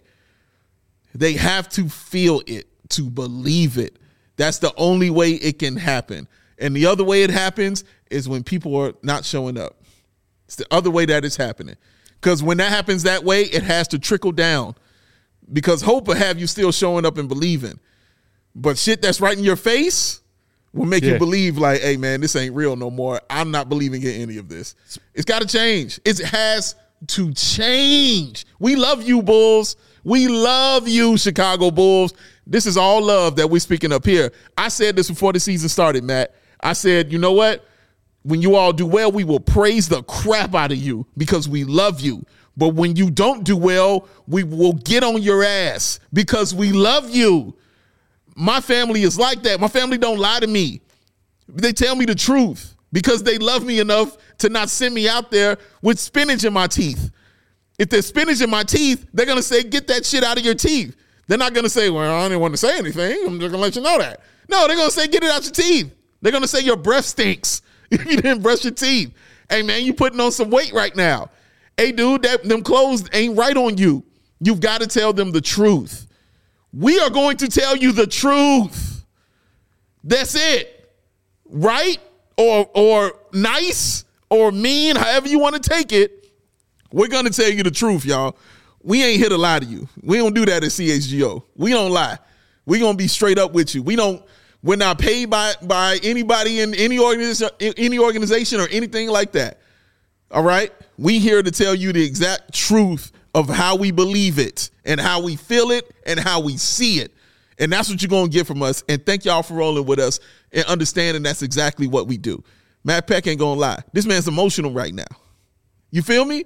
They have to feel it to believe it. That's the only way it can happen. And the other way it happens is when people are not showing up. It's the other way that it's happening. Because when that happens that way, it has to trickle down. Because hope will have you still showing up and believing. But shit that's right in your face will make you believe like, hey, man, this ain't real no more. I'm not believing in any of this. It's got to change. It has to change. We love you, Bulls. We love you, Chicago Bulls. This is all love that we're speaking up here. I said this before the season started, Matt. I said, you know what? When you all do well, we will praise the crap out of you because we love you. But when you don't do well, we will get on your ass because we love you. My family is like that. My family don't lie to me. They tell me the truth because they love me enough to not send me out there with spinach in my teeth. If there's spinach in my teeth, they're going to say, get that shit out of your teeth. They're not going to say, well, I didn't want to say anything. I'm just going to let you know that. No, they're going to say, get it out your teeth. They're going to say your breath stinks if you didn't brush your teeth. Hey, man, you putting on some weight right now. Hey, dude, them clothes ain't right on you. You've got to tell them the truth. We are going to tell you the truth. That's it. Right? Or nice or mean, however you want to take it. We're going to tell you the truth, y'all. We ain't here to lie to you. We don't do that at CHGO. We don't lie. We're going to be straight up with you. We're not paid by anybody in any organization or anything like that. All right? We here to tell you the exact truth of how we believe it and how we feel it and how we see it. And that's what you're going to get from us. And thank y'all for rolling with us and understanding that's exactly what we do. Matt Peck ain't going to lie. This man's emotional right now. You feel me?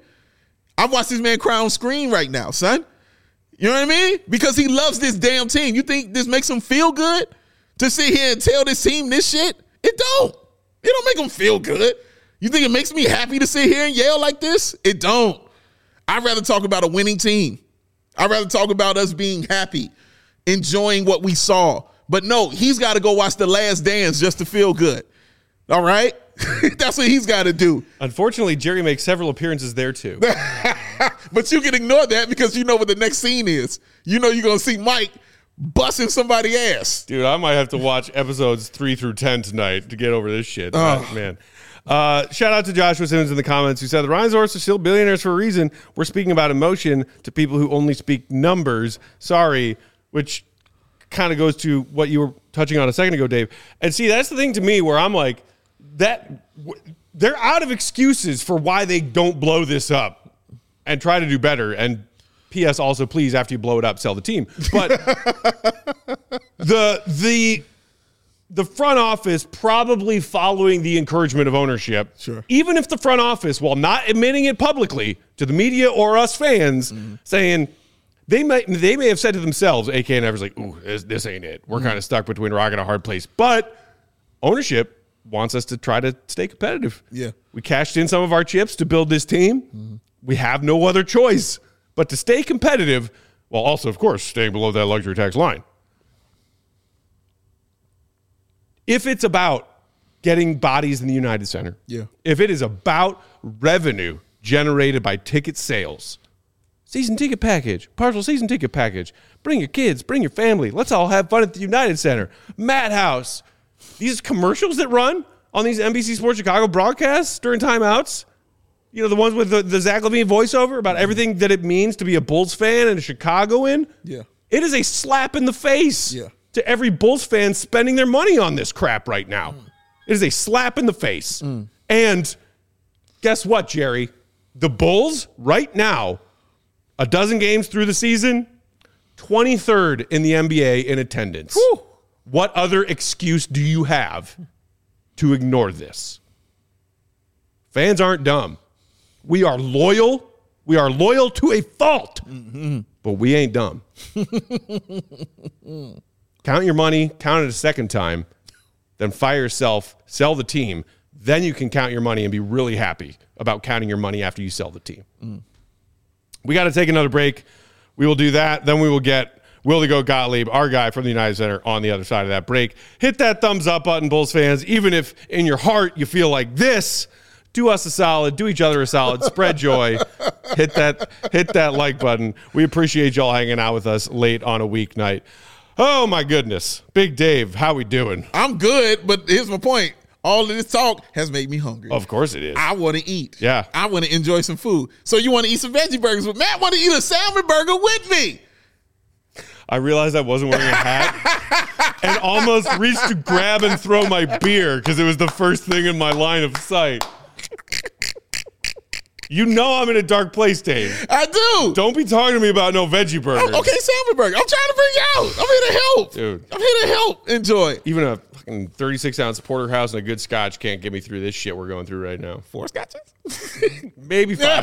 I watch this man cry on screen right now, son. You know what I mean? Because he loves this damn team. You think this makes him feel good to sit here and tell this team this shit? It don't. It don't make him feel good. You think it makes me happy to sit here and yell like this? It don't. I'd rather talk about a winning team. I'd rather talk about us being happy, enjoying what we saw. But no, he's got to go watch The Last Dance just to feel good. All right? That's what he's got to do. Unfortunately, Jerry makes several appearances there too. But you can ignore that because you know what the next scene is. You know you're going to see Mike busting somebody's ass. Dude, I might have to watch episodes 3 through 10 tonight to get over this shit. Man. Shout out to Joshua Simmons in the comments who said the Rhinesaurus are still billionaires for a reason. We're speaking about emotion to people who only speak numbers. Sorry, which kind of goes to what you were touching on a second ago, Dave. And see, that's the thing to me where I'm like, they're out of excuses for why they don't blow this up and try to do better. And P.S. also, please, after you blow it up, sell the team. But the front office probably following the encouragement of ownership, sure. Even if the front office, while not admitting it publicly to the media or us fans, saying they may have said to themselves, AK and Evers, like, ooh, this ain't it. We're kind of stuck between a rock and a hard place. But ownership wants us to try to stay competitive. Yeah. We cashed in some of our chips to build this team. We have no other choice but to stay competitive while also, of course, staying below that luxury tax line. If it's about getting bodies in the United Center, if it is about revenue generated by ticket sales, season ticket package, partial season ticket package, bring your kids, bring your family, let's all have fun at the United Center, Madhouse, these commercials that run on these NBC Sports Chicago broadcasts during timeouts, you know, the ones with the Zach LaVine voiceover about everything that it means to be a Bulls fan and a Chicagoan, it is a slap in the face. To every Bulls fan spending their money on this crap right now. It is a slap in the face. And guess what, Jerry? The Bulls right now, a dozen games through the season, 23rd in the NBA in attendance. Whew. What other excuse do you have to ignore this? Fans aren't dumb. We are loyal. We are loyal to a fault. But we ain't dumb. Count your money, count it a second time, then fire yourself, sell the team. Then you can count your money and be really happy about counting your money after you sell the team. We got to take another break. We will do that. Then we will get Willie Go Gottlieb, our guy from the United Center, on the other side of that break. Hit that thumbs up button, Bulls fans. Even if in your heart you feel like this, do us a solid, do each other a solid, spread joy. Hit that like button. We appreciate y'all hanging out with us late on a weeknight. Oh my goodness. Big Dave, how we doing? I'm good, but here's my point. All of this talk has made me hungry. Of course it is. I want to eat. Yeah. I want to enjoy some food. So you want to eat some veggie burgers, but Matt want to eat a salmon burger with me. I realized I wasn't wearing a hat and almost reached to grab and throw my beer because it was the first thing in my line of sight. You know I'm in a dark place, Dave. I do. Don't be talking to me about no veggie burgers. Okay, salmon burger. I'm trying to bring you out. I'm here to help. Dude. I'm here to help. Enjoy. Even a fucking 36-ounce porterhouse and a good scotch can't get me through this shit we're going through right now. 4 scotches? Maybe 5.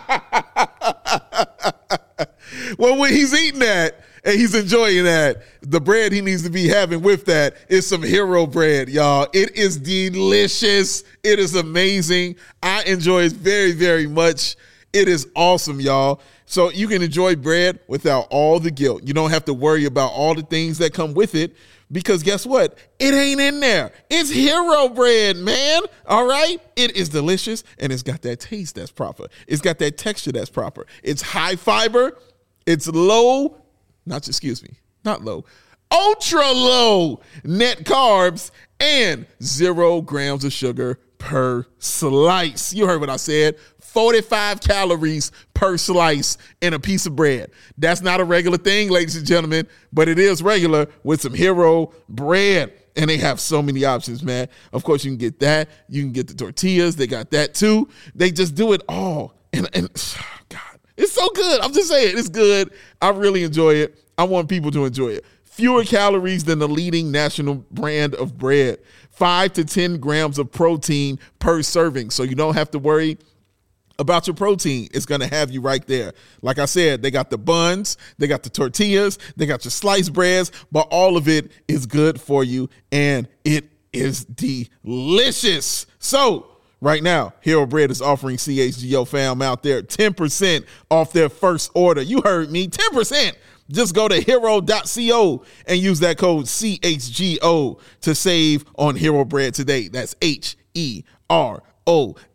Well, when he's eating that and he's enjoying that, the bread he needs to be having with that is some Hero bread, y'all. It is delicious. It is amazing. I enjoy it very, very much. It is awesome, y'all. So you can enjoy bread without all the guilt. You don't have to worry about all the things that come with it because guess what? It ain't in there. It's Hero bread, man. All right? It is delicious and it's got that taste that's proper. It's got that texture that's proper. It's high fiber. It's low, not low, ultra low net carbs and 0 grams of sugar per slice. You heard what I said. 45 calories per slice in a piece of bread. That's not a regular thing, ladies and gentlemen, but it is regular with some Hero bread. And they have so many options, man. Of course, you can get that. You can get the tortillas. They got that too. They just do it all. And God, it's so good. I'm just saying, it's good. I really enjoy it. I want people to enjoy it. Fewer calories than the leading national brand of bread. 5 to 10 grams of protein per serving. So you don't have to worry about your protein. It's going to have you right there. Like I said, they got the buns, they got the tortillas, they got your sliced breads, but all of it is good for you and it is delicious. So right now, Hero Bread is offering CHGO fam out there 10% off their first order. You heard me, 10%. Just go to hero.co and use that code CHGO to save on Hero Bread today. That's HERO.co.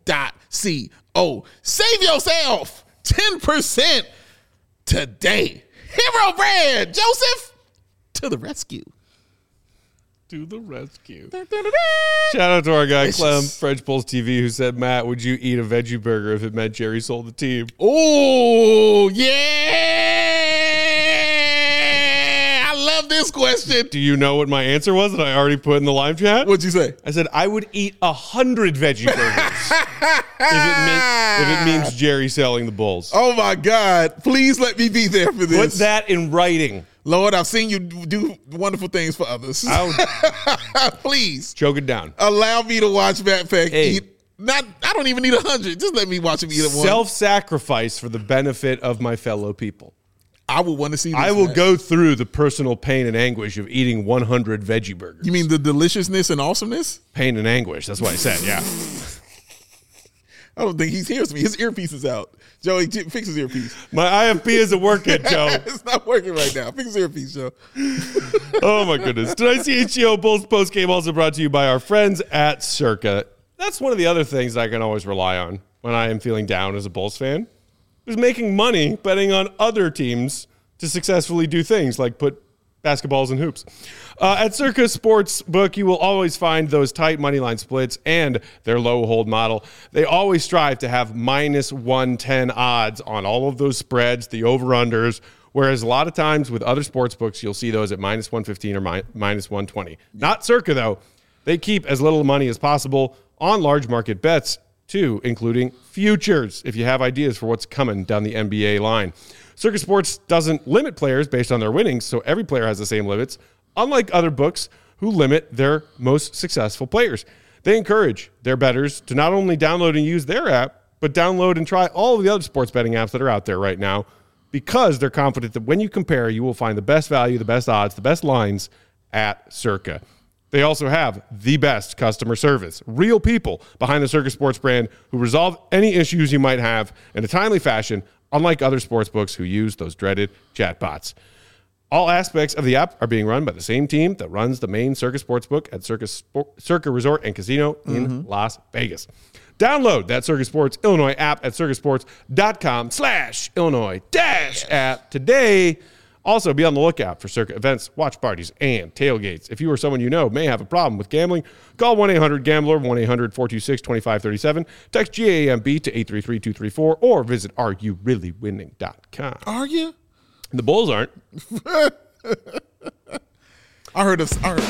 Save yourself 10% today. Hero Bread, Joseph, to the rescue. To the rescue. Shout out to our guy, Clem, French Bulls TV, who said, Matt, would you eat a veggie burger if it meant Jerry sold the team? Oh, yeah. I love this question. Do you know what my answer was that I already put in the live chat? What'd you say? I said, I would eat 100 veggie burgers if it means Jerry selling the Bulls. Oh, my God. Please let me be there for this. Put that in writing. Lord, I've seen you do wonderful things for others. Please. Choke it down. Allow me to watch Matt Peck eat. I don't even need 100. Just let me watch him eat one. Self-sacrifice for the benefit of my fellow people. I would want to see this. I will go through the personal pain and anguish of eating 100 veggie burgers. You mean the deliciousness and awesomeness? Pain and anguish. That's what I said, yeah. I don't think he hears me. His earpiece is out. Joey, fix his earpiece. My IFP isn't working, Joe. It's not working right now. Fix his earpiece, Joe. Oh, my goodness. Tonight's CHGO Bulls postgame also brought to you by our friends at Circa. That's one of the other things I can always rely on when I am feeling down as a Bulls fan, is making money betting on other teams to successfully do things like put basketballs in hoops. At Circa Sportsbook, you will always find those tight money line splits and their low hold model. They always strive to have minus 110 odds on all of those spreads, the over-unders, whereas a lot of times with other sports books, you'll see those at minus 115 or minus 120. Not Circa, though. They keep as little money as possible on large market bets, too, including futures, if you have ideas for what's coming down the NBA line. Circa Sports doesn't limit players based on their winnings, so every player has the same limits, unlike other books who limit their most successful players. They encourage their bettors to not only download and use their app, but download and try all of the other sports betting apps that are out there right now, because they're confident that when you compare, you will find the best value, the best odds, the best lines at Circa. They also have the best customer service, real people behind the Circa Sports brand who resolve any issues you might have in a timely fashion, unlike other sportsbooks who use those dreaded chatbots. All aspects of the app are being run by the same team that runs the main Circa Sportsbook at Circa Resort and Casino in Las Vegas. Download that Circa Sports Illinois app at circasports.com/Illinois-app today. Also, be on the lookout for Circa events, watch parties, and tailgates. If you or someone you know may have a problem with gambling, call 1-800-GAMBLER, 1-800-426-2537, text GAMB to 833-234, or visit areyoureallywinning.com. Are you? The Bulls aren't. I heard this. That's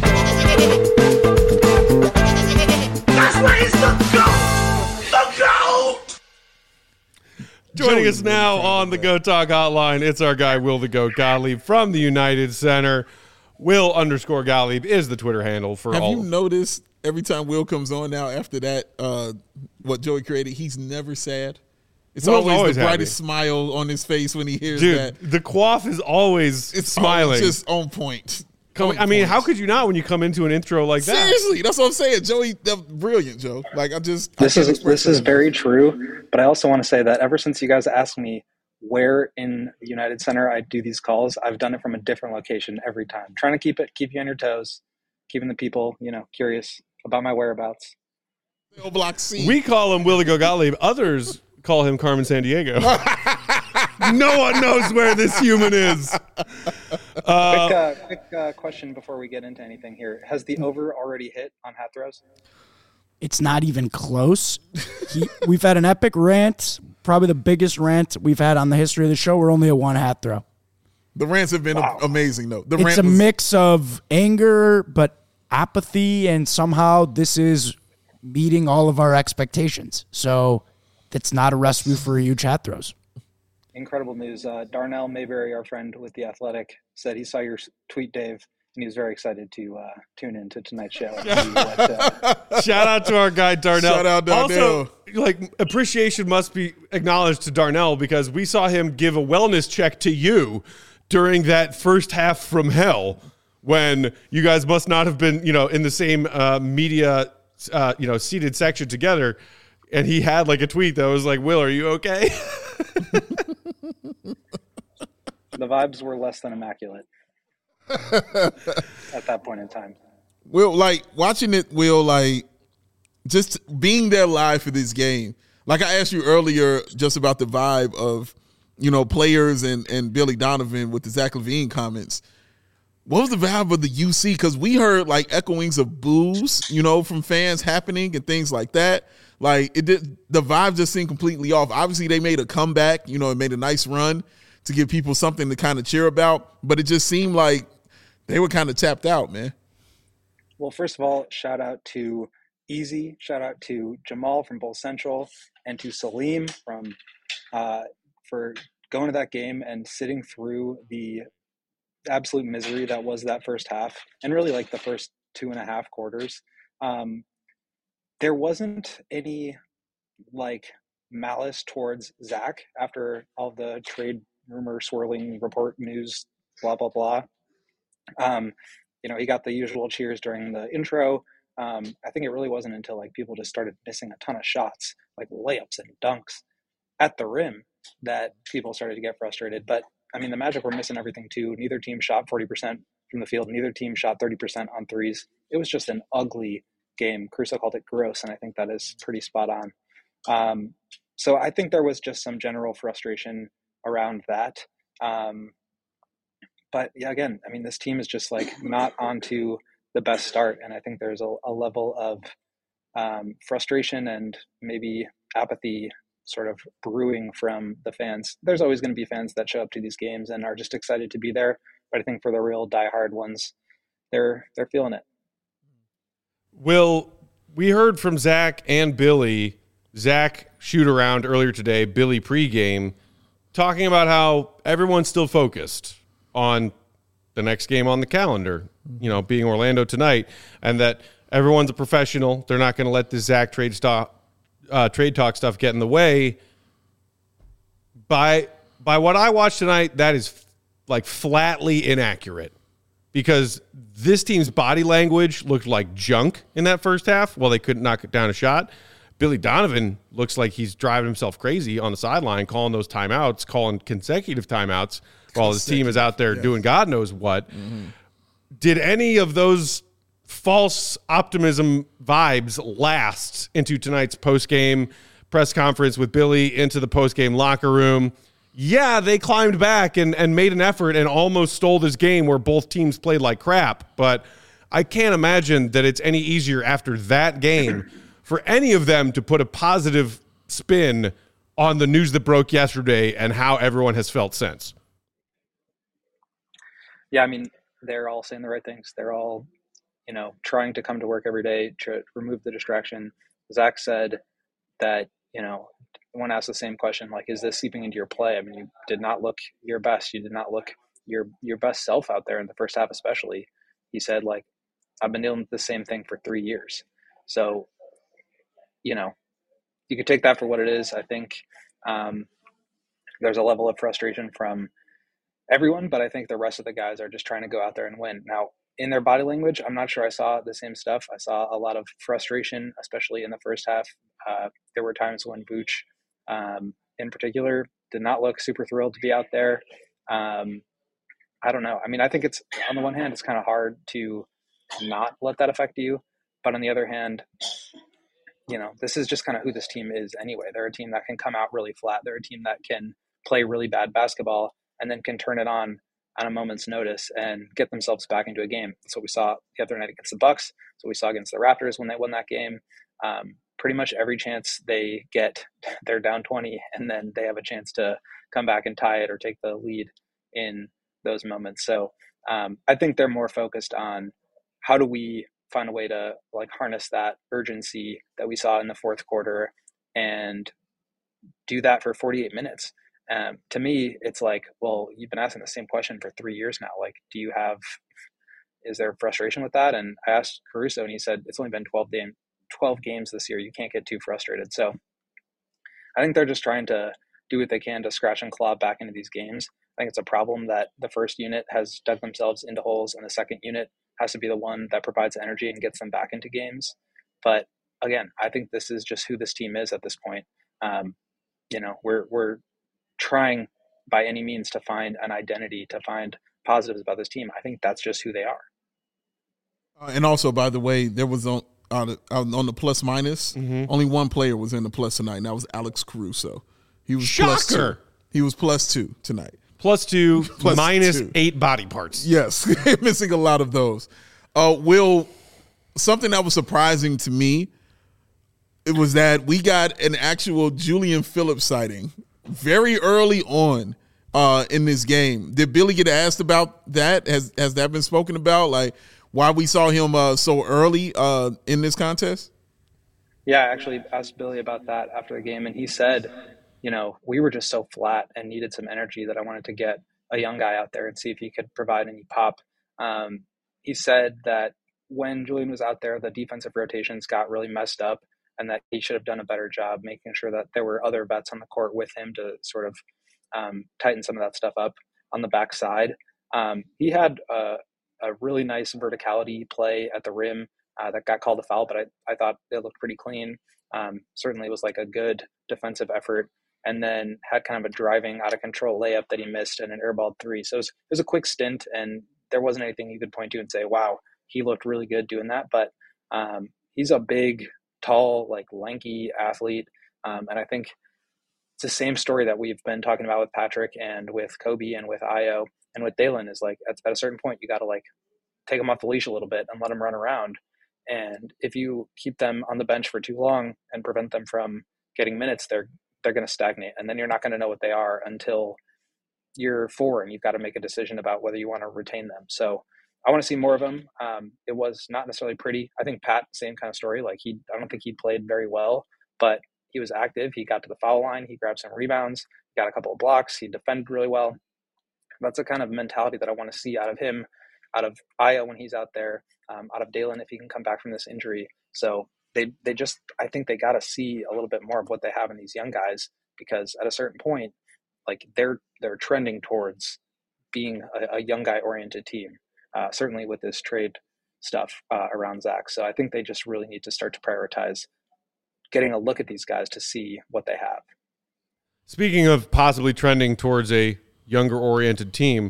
where he's the GOAT! The GOAT! Joining us now on the Go Talk Hotline, it's our guy, Will the Goat Gottlieb from the United Center. Will_Gottlieb is the Twitter handle for all. Have you noticed every time Will comes on now after that, what Joey created, he's never sad? It's Will's always the happy. brightest smile on his face when he hears Dude, that. the quaff is always It's smiling. just on point. I mean, how could you not when you come into an intro like that? Seriously, that's what I'm saying. Joey, that's brilliant, Joe. Like This is very true, but I also want to say that ever since you guys asked me where in the United Center I do these calls, I've done it from a different location every time. Trying to keep you on your toes, keeping the people, curious about my whereabouts. Block C. We call him Will the Goat Gottlieb. Others call him Carmen Sandiego. No one knows where this human is. Quick question before we get into anything here. Has the over already hit on hat throws? It's not even close. We've had an epic rant, probably the biggest rant we've had on the history of the show. We're only at one hat throw. The rants have been amazing, though. It's a mix of anger, but apathy, and somehow this is meeting all of our expectations. So it's not a recipe for huge hat throws. Incredible news. Darnell Mayberry, our friend with The Athletic, said he saw your tweet, Dave, and he was very excited to tune into tonight's show. And see what, Shout out to our guy, Darnell. Shout out, Darnell. Also, appreciation must be acknowledged to Darnell because we saw him give a wellness check to you during that first half from hell when you guys must not have been, in the same media, seated section together. And he had a tweet that was like, Will, are you okay? the vibes were less than immaculate at that point in time. Will, watching it, Will, just being there live for this game. Like I asked you earlier just about the vibe of, players and Billy Donovan with the Zach LaVine comments. What was the vibe of the UC? Because we heard echoings of boos, from fans happening and things like that. The vibe just seemed completely off. Obviously, they made a comeback, it made a nice run to give people something to kind of cheer about. But it just seemed like they were kind of tapped out, man. Well, first of all, shout out to Easy. Shout out to Jamal from Bull Central and to Salim for going to that game and sitting through the absolute misery that was that first half and really the first 2.5 quarters. There wasn't any malice towards Zach after all the trade rumor swirling report news, blah, blah, blah. He got the usual cheers during the intro. I think it really wasn't until people just started missing a ton of shots, layups and dunks at the rim, that people started to get frustrated. But the Magic were missing everything too. Neither team shot 40% from the field. Neither team shot 30% on threes. It was just an ugly game. Caruso called it gross, and I think that is pretty spot on. So I think there was just some general frustration around that. But yeah, again, this team is just not onto the best start, and I think there's a level of frustration and maybe apathy sort of brewing from the fans. There's always going to be fans that show up to these games and are just excited to be there, but I think for the real diehard ones, they're feeling it. Will, we heard from Zach and Billy, Zach shoot around earlier today, Billy pregame, talking about how everyone's still focused on the next game on the calendar, being Orlando tonight, and that everyone's a professional. They're not going to let this Zach trade talk stuff get in the way. By what I watched tonight, that is flatly inaccurate, because this team's body language looked like junk in that first half. Well, they couldn't knock it down a shot. Billy Donovan looks like he's driving himself crazy on the sideline, calling those timeouts, calling consecutive timeouts while his team is out there doing God knows what. Did any of those false optimism vibes last into tonight's post-game press conference with Billy, into the post-game locker room? Yeah, they climbed back and made an effort and almost stole this game where both teams played like crap, but I can't imagine that it's any easier after that game for any of them to put a positive spin on the news that broke yesterday and how everyone has felt since. Yeah, I mean, they're all saying the right things. They're all, trying to come to work every day to remove the distraction. Zach said that, when asked the same question, like, is this seeping into your play? I mean, you did not look your best. You did not look your best self out there in the first half, especially. He said, like, I've been dealing with the same thing for 3 years. So, you could take that for what it is. I think there's a level of frustration from everyone, but I think the rest of the guys are just trying to go out there and win. Now, in their body language, I'm not sure I saw the same stuff. I saw a lot of frustration, especially in the first half. There were times when Vooch, in particular, did not look super thrilled to be out there. I don't know. I mean, I think it's, on the one hand, it's kind of hard to not let that affect you. But on the other hand, this is just kind of who this team is anyway. They're a team that can come out really flat. They're a team that can play really bad basketball and then can turn it on a moment's notice and get themselves back into a game. That's what we saw the other night against the Bucks. That's what we saw against the Raptors when they won that game. Pretty much every chance they get, they're down 20, and then they have a chance to come back and tie it or take the lead in those moments. So I think they're more focused on how do we find a way to harness that urgency that we saw in the fourth quarter and do that for 48 minutes. To me, it's like, well, you've been asking the same question for 3 years now. Like, is there frustration with that? And I asked Caruso, and he said, it's only been 12 games this year. You can't get too frustrated. So I think they're just trying to do what they can to scratch and claw back into these games. I think it's a problem that the first unit has dug themselves into holes, and the second unit has to be the one that provides energy and gets them back into games. But again, I think this is just who this team is at this point. We're trying by any means to find an identity, to find positives about this team. I think that's just who they are. And also, by the way, there was on the plus minus, only one player was in the plus tonight, and that was Alex Caruso. He was Shocker. +2. He was +2 tonight. +2, Plus minus 2. 8 body parts. Yes, missing a lot of those. Will, something that was surprising to me, it was that we got an actual Julian Phillips sighting very early on in this game. Did Billy get asked about that? Has that been spoken about? Like, why we saw him so early in this contest? Yeah, I actually asked Billy about that after the game, and he said, we were just so flat and needed some energy that I wanted to get a young guy out there and see if he could provide any pop. He said that when Julian was out there, the defensive rotations got really messed up, and that he should have done a better job making sure that there were other vets on the court with him to sort of tighten some of that stuff up on the backside. He had a really nice verticality play at the rim that got called a foul, but I thought it looked pretty clean. Certainly was like a good defensive effort, and then had kind of a driving out of control layup that he missed and an airball three. So it was a quick stint, and there wasn't anything you could point to and say, wow, he looked really good doing that. But he's a big, tall, lanky athlete. And I think it's the same story that we've been talking about with Patrick and with Kobe and with Io and with Dalen is at a certain point, you got to take them off the leash a little bit and let them run around. And if you keep them on the bench for too long and prevent them from getting minutes, they're going to stagnate. And then you're not going to know what they are until you're 4 and you've got to make a decision about whether you want to retain them. So I want to see more of him. It was not necessarily pretty. I think Pat, same kind of story. I don't think he played very well, but he was active. He got to the foul line. He grabbed some rebounds, got a couple of blocks. He defended really well. That's the kind of mentality that I want to see out of him, out of Io when he's out there, out of Dalen if he can come back from this injury. So they just, I think they got to see a little bit more of what they have in these young guys, because at a certain point, they're trending towards being a young guy oriented team. Certainly with this trade stuff around Zach. So I think they just really need to start to prioritize getting a look at these guys to see what they have. Speaking of possibly trending towards a younger-oriented team,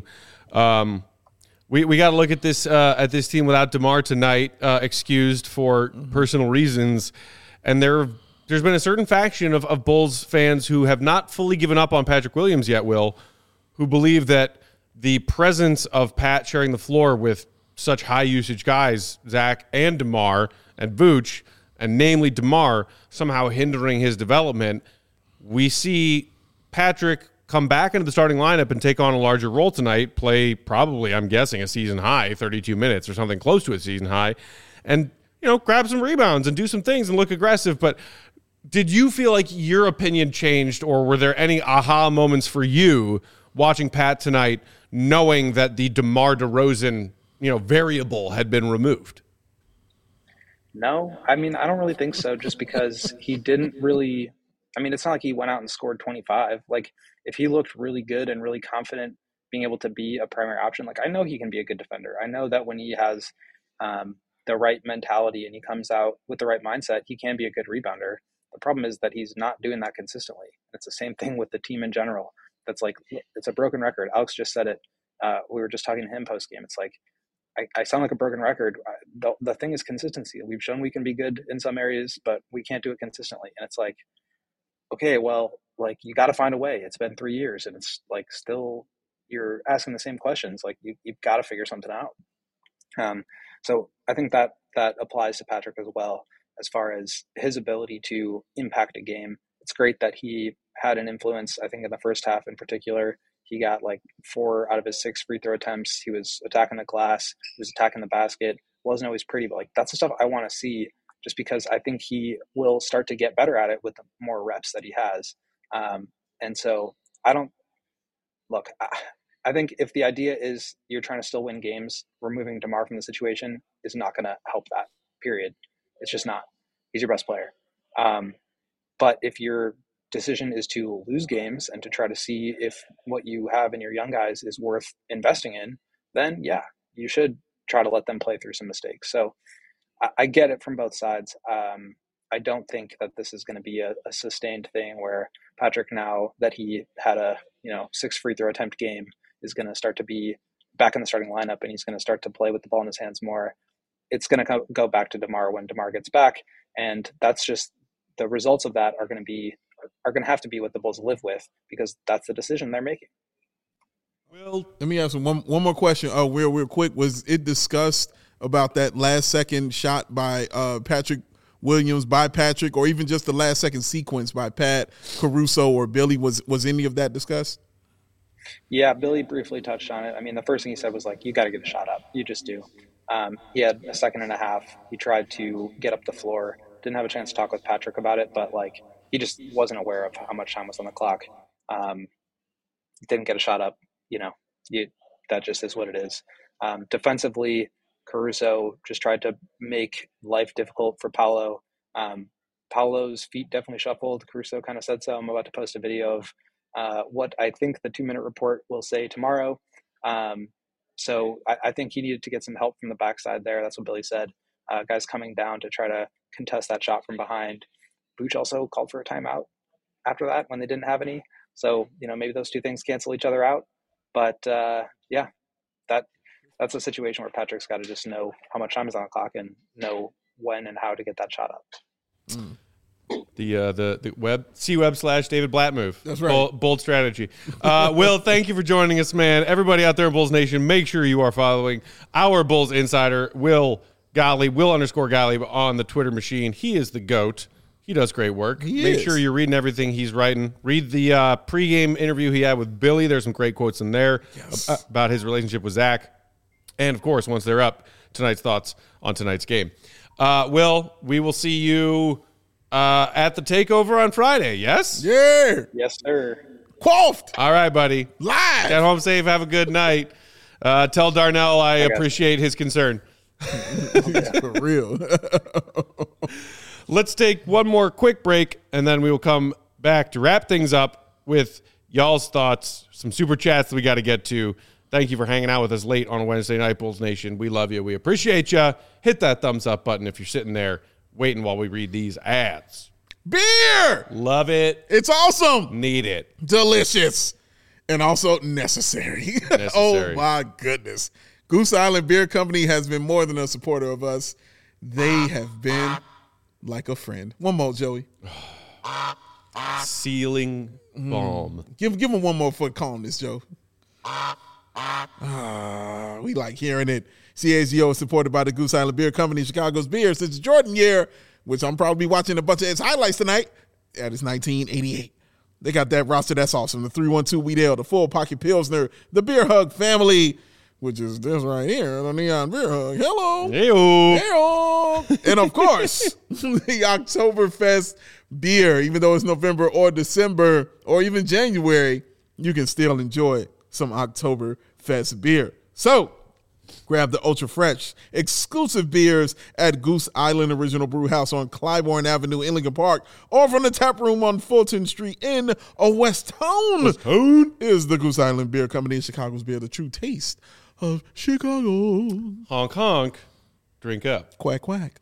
we got to look at this team without DeMar tonight, excused for personal reasons, and there's been a certain faction of Bulls fans who have not fully given up on Patrick Williams yet, Will, who believe that the presence of Pat sharing the floor with such high-usage guys, Zach and DeMar and Vooch, and namely DeMar, somehow hindering his development. We see Patrick come back into the starting lineup and take on a larger role tonight, play probably, I'm guessing, a season high, 32 minutes or something close to a season high, and, grab some rebounds and do some things and look aggressive. But did you feel like your opinion changed, or were there any aha moments for you watching Pat tonight, knowing that the DeMar DeRozan, variable had been removed? No, I mean, I don't really think so, just because he didn't really – it's not like he went out and scored 25. Like, if he looked really good and really confident being able to be a primary option, like, I know he can be a good defender. I know that when he has the right mentality and he comes out with the right mindset, he can be a good rebounder. The problem is that he's not doing that consistently. It's the same thing with the team in general. That's like, it's a broken record. Alex just said it. We were just talking to him post-game. It's like, I sound like a broken record. The thing is consistency. We've shown we can be good in some areas, but we can't do it consistently. And it's like, okay, well, like, you got to find a way. It's been 3 years and it's like, still you're asking the same questions. Like, you've got to figure something out. So I think that applies to Patrick as well, as far as his ability to impact a game. It's great that he had an influence. I think in the first half in particular, he got like 4 out of his 6 free throw attempts. He was attacking the glass. He was attacking the basket. Wasn't always pretty, but like, that's the stuff I want to see, just because I think he will start to get better at it with the more reps that he has. And so I think if the idea is you're trying to still win games, removing DeMar from the situation is not going to help that, period. It's just not. He's your best player. But if your decision is to lose games and to try to see if what you have in your young guys is worth investing in, then yeah, you should try to let them play through some mistakes. So I get it from both sides. I don't think that this is going to be a sustained thing where Patrick, now that he had a 6 free throw attempt game, is going to start to be back in the starting lineup and he's going to start to play with the ball in his hands more. It's going to go back to DeMar when DeMar gets back, and that's just the results of that are going to have to be what the Bulls live with, because that's the decision they're making. Well, let me ask you one more question. Real quick. Was it discussed about that last second shot by Patrick Williams by Patrick, or even just the last second sequence by Pat, Caruso, or Billy? Was any of that discussed? Yeah, Billy briefly touched on it. I mean, the first thing he said was like, you got to get a shot up. You just do. He had a second and a half. He tried to get up the floor. Didn't have a chance to talk with Patrick about it, but like, he just wasn't aware of how much time was on the clock. Didn't get a shot up. That just is what it is. Defensively, Caruso just tried to make life difficult for Paolo. Paolo's feet definitely shuffled. Caruso kind of said so. I'm about to post a video of what I think the 2-minute report will say tomorrow. So I think he needed to get some help from the backside there. That's what Billy said. Guys coming down to try to contest that shot from behind. Vooch also called for a timeout after that when they didn't have any. So, maybe those two things cancel each other out. But that's a situation where Patrick's got to just know how much time is on the clock and know when and how to get that shot up. The web C-Web/David Blatt move. That's right. Bold strategy. Will, thank you for joining us, man. Everybody out there in Bulls Nation, make sure you are following our Bulls insider, Will _Gottlieb on the Twitter machine. He is the GOAT. He does great work. Make sure you're reading everything he's writing. Read the pregame interview he had with Billy. There's some great quotes in there about his relationship with Zach. And, of course, once they're up, tonight's thoughts on tonight's game. Will, we will see you at the takeover on Friday, yes? Yeah. Yes, sir. Quaffed. All right, buddy. Live. Get home safe. Have a good night. Tell Darnell I appreciate his concern. For real. Let's take one more quick break, and then we will come back to wrap things up with y'all's thoughts, some super chats that we got to get to. Thank you for hanging out with us late on Wednesday night, Bulls Nation. We love you. We appreciate you. Hit that thumbs up button if you're sitting there waiting while we read these ads. beer. Love it. It's awesome, Need it. delicious, and also necessary. Oh, Necessary. my goodness. Goose Island Beer Company has been more than a supporter of us. They have been like a friend. One more, Joey. Ceiling balm. Give him one more for calmness, Joe. We like hearing it. CHGO is supported by the Goose Island Beer Company, Chicago's beer since the Jordan year, which I'm probably watching a bunch of its highlights tonight. That is 1988. They got that roster. That's awesome. The 312 Wheat Ale, the Full Pocket Pilsner, the Beer Hug family, which is this right here, the Neon Beer Hug. Hello. Hey-o. Hey-o. And of course, the Oktoberfest beer. Even though it's November or December or even January, you can still enjoy some Oktoberfest beer. So grab the Ultra Fresh exclusive beers at Goose Island Original Brew House on Clybourne Avenue in Lincoln Park, or from the tap room on Fulton Street in West Town. Is the Goose Island Beer Company, Chicago's beer, the true taste of Chicago. Honk, honk. Drink up. Quack, quack.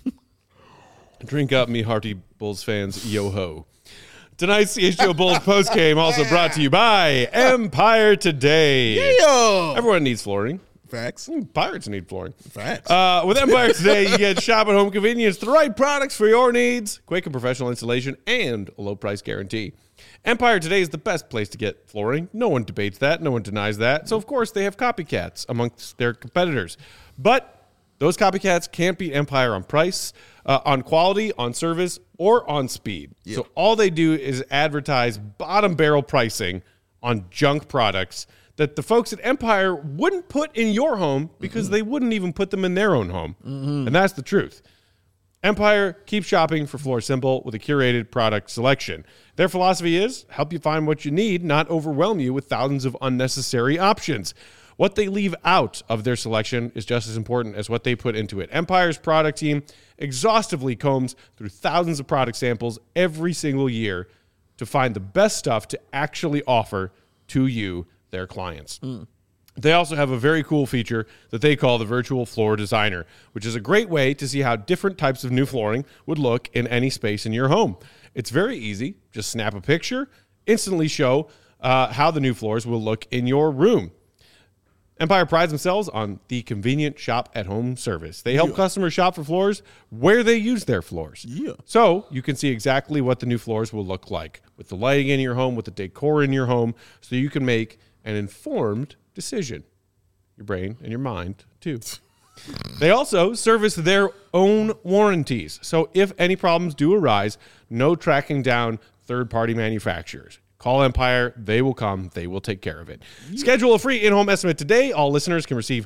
Drink up, me hearty Bulls fans. Yo-ho. Tonight's CHGO Bulls postgame also brought to you by Empire Today. Yeah. Everyone needs flooring. Facts. Pirates need flooring. Facts. With Empire Today, you get shop at home convenience, the right products for your needs, quick and professional installation, and a low price guarantee. Empire Today is the best place to get flooring. No one debates that. No one denies that. So, of course, they have copycats amongst their competitors. But those copycats can't beat Empire on price, on quality, on service, or on speed. Yeah. So all they do is advertise bottom barrel pricing on junk products that the folks at Empire wouldn't put in your home because they wouldn't even put them in their own home. And that's the truth. Empire keeps shopping for Floor Simple with a curated product selection. Their philosophy is help you find what you need, not overwhelm you with thousands of unnecessary options. What they leave out of their selection is just as important as what they put into it. Empire's product team exhaustively combs through thousands of product samples every single year to find the best stuff to actually offer to you, their clients. They also have a very cool feature that they call the Virtual Floor Designer, which is a great way to see how different types of new flooring would look in any space in your home. It's very easy. Just snap a picture, instantly show how the new floors will look in your room. Empire prides themselves on the convenient shop-at-home service. They help customers shop for floors where they use their floors. So you can see exactly what the new floors will look like with the lighting in your home, with the decor in your home, so you can make an informed decision. Your brain and your mind, too. They also service their own warranties. So if any problems do arise, no tracking down third-party manufacturers. Call Empire. They will come. They will take care of it. Schedule a free in-home estimate today. All listeners can receive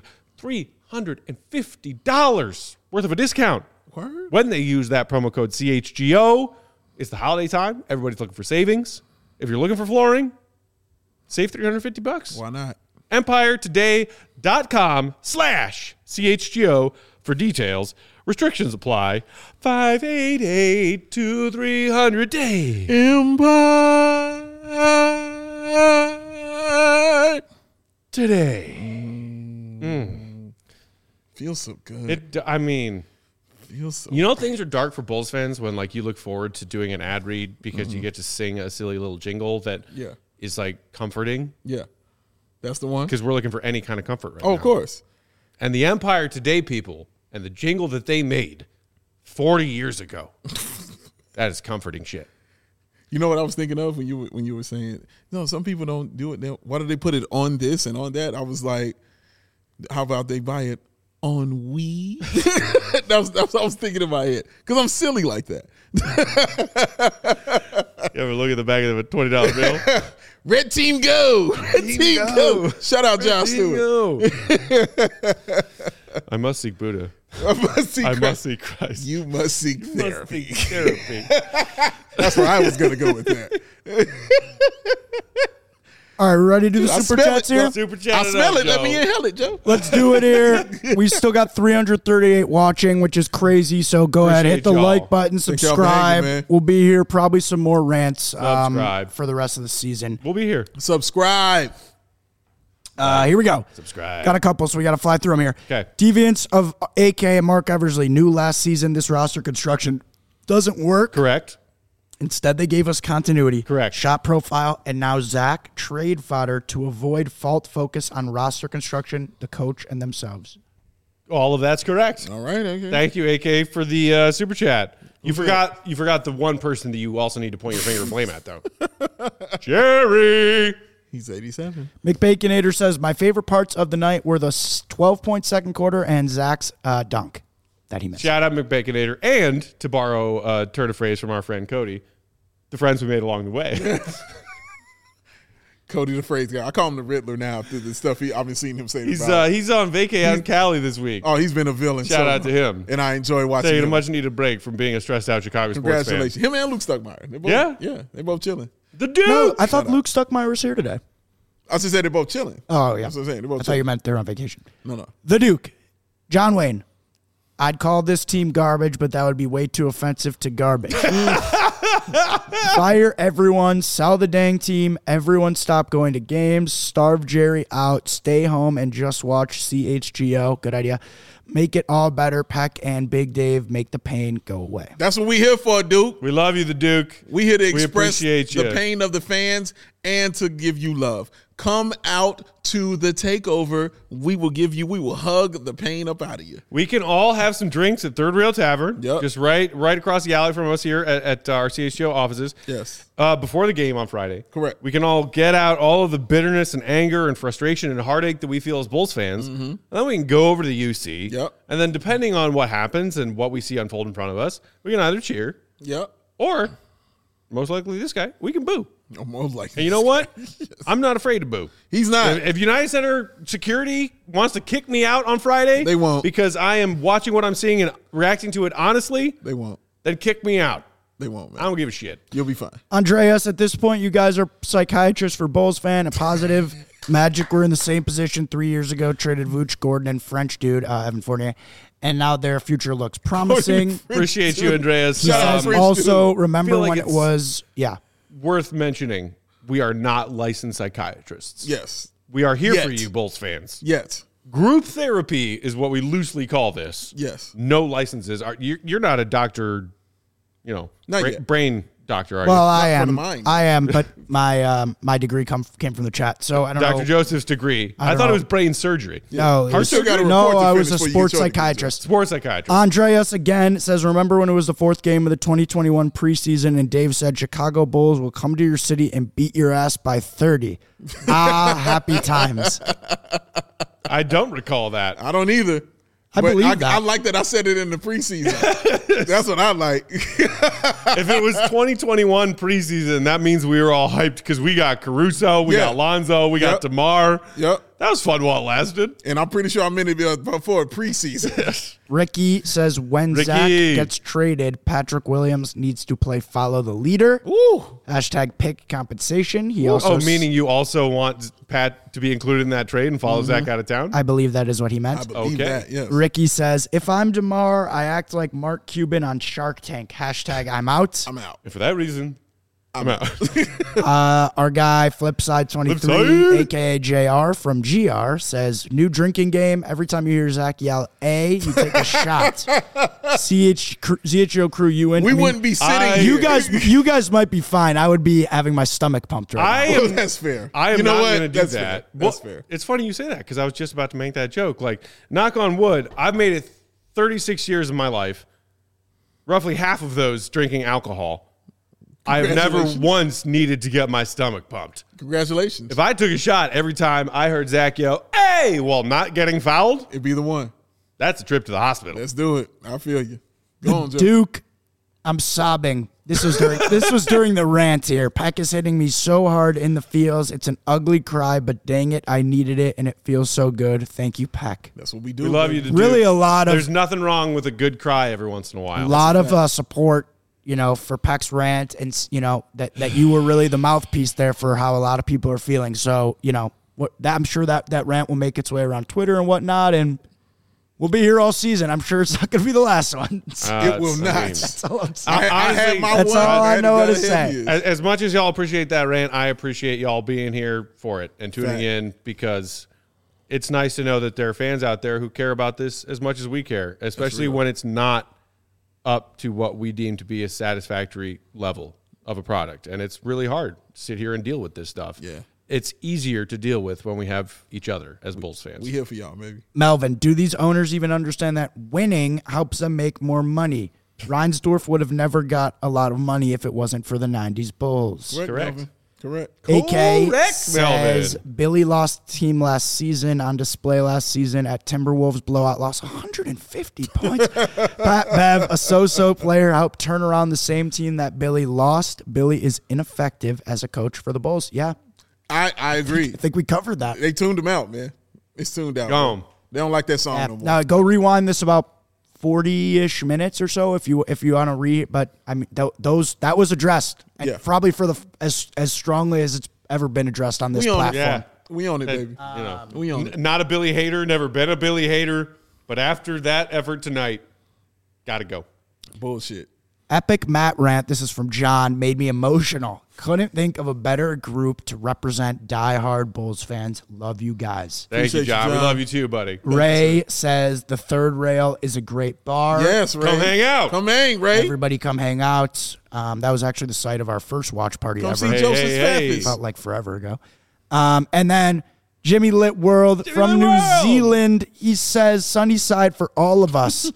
$350 worth of a discount when they use that promo code CHGO. It's the holiday time. Everybody's looking for savings. If you're looking for flooring, save $350. Why not? EmpireToday.com/CHGO for details. Restrictions apply. 588-2300 day. Empire Today. Feels so good. Feels so You know, things are dark for Bulls fans when, like, you look forward to doing an ad read because you get to sing a silly little jingle that is, like, comforting. Yeah. That's the one? Because we're looking for any kind of comfort right now. Oh, of course. And the Empire Today people and the jingle that they made 40 years ago, that is comforting shit. You know what I was thinking of when you were saying, no, some people don't do it. Why do they put it on this and on that? I was like, how about they buy it on weed? That's what I was thinking in my head. Because I'm silly like that. You ever look at the back of a $20 bill? Red team go. Red team go. Shout out John Stewart. I must seek Buddha. I must seek Christ. You must seek therapy. That's where I was going to go with that. All right, ready to do the super chats here? Super chat. I smell it. Joe. Let me inhale it, Joe. Let's do it here. We still got 338 watching, which is crazy. So go ahead, hit the y'all. like button, Thank y'all for subscribe. hanging, man. We'll be here, probably some more rants Subscribe. for the rest of the season. We'll be here. Subscribe. Here we go. Subscribe. Got a couple, so we got to fly through them here. Okay. Deviants of AK and Mark Eversley knew last season this roster construction doesn't work. Correct. Instead, they gave us continuity, Correct. shot profile, and now Zach trade fodder to avoid fault focus on roster construction, the coach, and themselves. All of that's correct. All right. Okay. Thank you, AK, for the super chat. You forgot the one person that you also need to point your finger of blame at, though. Jerry. He's 87. McBaconator says, my favorite parts of the night were the 12-point second quarter and Zach's dunk that he missed. Shout out McBaconator. And, to borrow a turn of phrase from our friend Cody, the friends we made along the way. Cody the phrase guy. I call him the Riddler now through the stuff I've been seeing him say. He's on vacay out in Cali this week. Oh, he's been a villain. Shout out to him. And I enjoy watching Taking a him. much needed break from being a stressed out Chicago sports fan. Congratulations. Him and Luke Stuckmeyer. They're both, Yeah? Yeah. They're both chilling. The dude. No, I thought Luke Stuckmeyer was here today. I just said they're both chilling. Oh, yeah. That's what I'm saying. They're both I thought chilling. you meant they're on vacation. No. The Duke, John Wayne. I'd call this team garbage, but that would be way too offensive to garbage. Fire everyone, sell the dang team, everyone stop going to games, starve Jerry out, stay home and just watch CHGO. Good idea. Make it all better. Peck and Big Dave make the pain go away. That's what we here for, Duke. We love you, the Duke. We here to We express appreciate the you. pain of the fans and to give you love. Come out to the takeover. We will hug the pain up out of you. We can all have some drinks at Third Rail Tavern. Yep. Just right across the alley from us here at our CHGO offices. Yes. Before the game on Friday. Correct. We can all get out all of the bitterness and anger and frustration and heartache that we feel as Bulls fans. And then we can go over to the UC. Yep. And then depending on what happens and what we see unfold in front of us, we can either cheer Yep. or, most likely this guy, we can boo. Most likely. And you know what? I'm not afraid to boo. He's not. If United Center security wants to kick me out on Friday, They won't. because I am watching what I'm seeing and reacting to it honestly, They won't. then kick me out. They won't, man. I don't give a shit. You'll be fine. Andreas, at this point, you guys are psychiatrists for Bulls fan, a positive. Magic were in the same position 3 years ago, traded Vooch, Gordon, and French dude, Evan Fournier, and now their future looks promising. Appreciate you, Andreas. Shout out French Also, dude. remember Feel like when it it's- was, Worth mentioning, we are not licensed psychiatrists. Yes. We are here for Yet. you, Bulls fans. Yes. Group therapy is what we loosely call this. Yes. No licenses. You're not a doctor, Not yet. brain doctor, are well, you? I for the am. mind. I am, but my degree came from the chat, so I don't Dr. know. Joseph's degree. I don't thought know. it was brain surgery. No, it Heart was- surgery? gotta no, report to I was finish a before you sports get your degree, psychiatrist. Sports psychiatrist. Andreas again says, remember when it was the fourth game of the 2021 preseason and Dave said Chicago Bulls will come to your city and beat your ass by 30. Happy times. I don't recall that. I don't either. I But believe that. I like that I said it in the preseason. That's what I like. If it was 2021 preseason, that means we were all hyped because we got Caruso, we Yeah. got Lonzo, we got Yep. DeMar. Yep. That was fun while it lasted. And I'm pretty sure I'm in it before preseason. Ricky says when Zach Ricky. gets traded, Patrick Williams needs to play follow the leader. Ooh. Hashtag pick compensation. He also Meaning you also want Pat to be included in that trade and follow Zach out of town? I believe that is what he I meant. believe Okay. that, yes. Ricky says, if I'm DeMar, I act like Mark Cuban on Shark Tank. Hashtag I'm out. I'm out. And for that reason, I'm out. Our guy, Flipside23, Flipside. a.k.a. JR from GR, says, new drinking game. Every time you hear Zach yell, A, you take a shot. CHO crew, you in? We I mean, wouldn't be sitting I- here. You guys might be fine. I would be having my stomach pumped right now. Well, that's fair. I am You know not what? going to do That's that. fair. Well, That's fair. It's funny you say that because I was just about to make that joke. Like, knock on wood, I've made it 36 years of my life, roughly half of those drinking alcohol. I have never Congratulations. once needed to get my stomach pumped. Congratulations. If I took a shot every time I heard Zach yell, hey, while not getting fouled, It'd be the one. that's a trip to the hospital. Let's do it. I feel you. Go on, Joe. Duke, I'm sobbing. This was during the rant here. Peck is hitting me so hard in the feels. It's an ugly cry, but dang it, I needed it, and it feels so good. Thank you, Peck. That's what we do. We love you baby. to Really do. a lot of- There's nothing wrong with a good cry every once in a while. A lot of support, for Peck's rant, and that you were really the mouthpiece there for how a lot of people are feeling. So I'm sure that rant will make its way around Twitter and whatnot, and we'll be here all season. I'm sure it's not going to be the last one. It will not. That's all I'm saying. I had my That's one. all I had know to how to go ahead say. of you. As much as y'all appreciate that rant, I appreciate y'all being here for it and tuning Fact. in because it's nice to know that there are fans out there who care about this as much as we care, especially when it's not up to what we deem to be a satisfactory level. of a product, and it's really hard to sit here and deal with this stuff. Yeah. It's easier to deal with when we have each other as Bulls fans. We here for y'all, baby. Melvin, do these owners even understand that winning helps them make more money? Reinsdorf would have never got a lot of money if it wasn't for the 90s Bulls. Correct. Melvin. Correct. AK Correct, says Melvin. Billy lost team last season on display last season at Timberwolves blowout loss 150 points. Pat Bev, a so-so player, helped turn around the same team that Billy lost. Billy is ineffective as a coach for the Bulls. Yeah, I agree. I think we covered that. They tuned him out, man. It's tuned out. Gone. Man. They don't like that song Yeah. no more. Now go rewind this about 40-ish minutes or so if you want to read. But I mean that was addressed, and Yeah. probably for as strongly as it's ever been addressed on this We own it. platform. Yeah. We own it, baby. You know, We own it. not a Billy hater, never been a Billy hater, but after that effort tonight, got to go. Bullshit. Epic Matt rant, this is from John, made me emotional. Couldn't think of a better group to represent diehard Bulls fans. Love you guys. Thank you, Appreciate you, John. We John. love you too, buddy. Ray says the Third Rail is a great bar. Yes, Ray. Come hang out. Come hang, Ray. Everybody come hang out. That was actually the site of our first watch party Come ever. see Hey, Joseph's hey, hey. Faffies. Felt like forever ago. And then Jimmy Lit World from Lit New World. Zealand. He says, Sunnyside for all of us.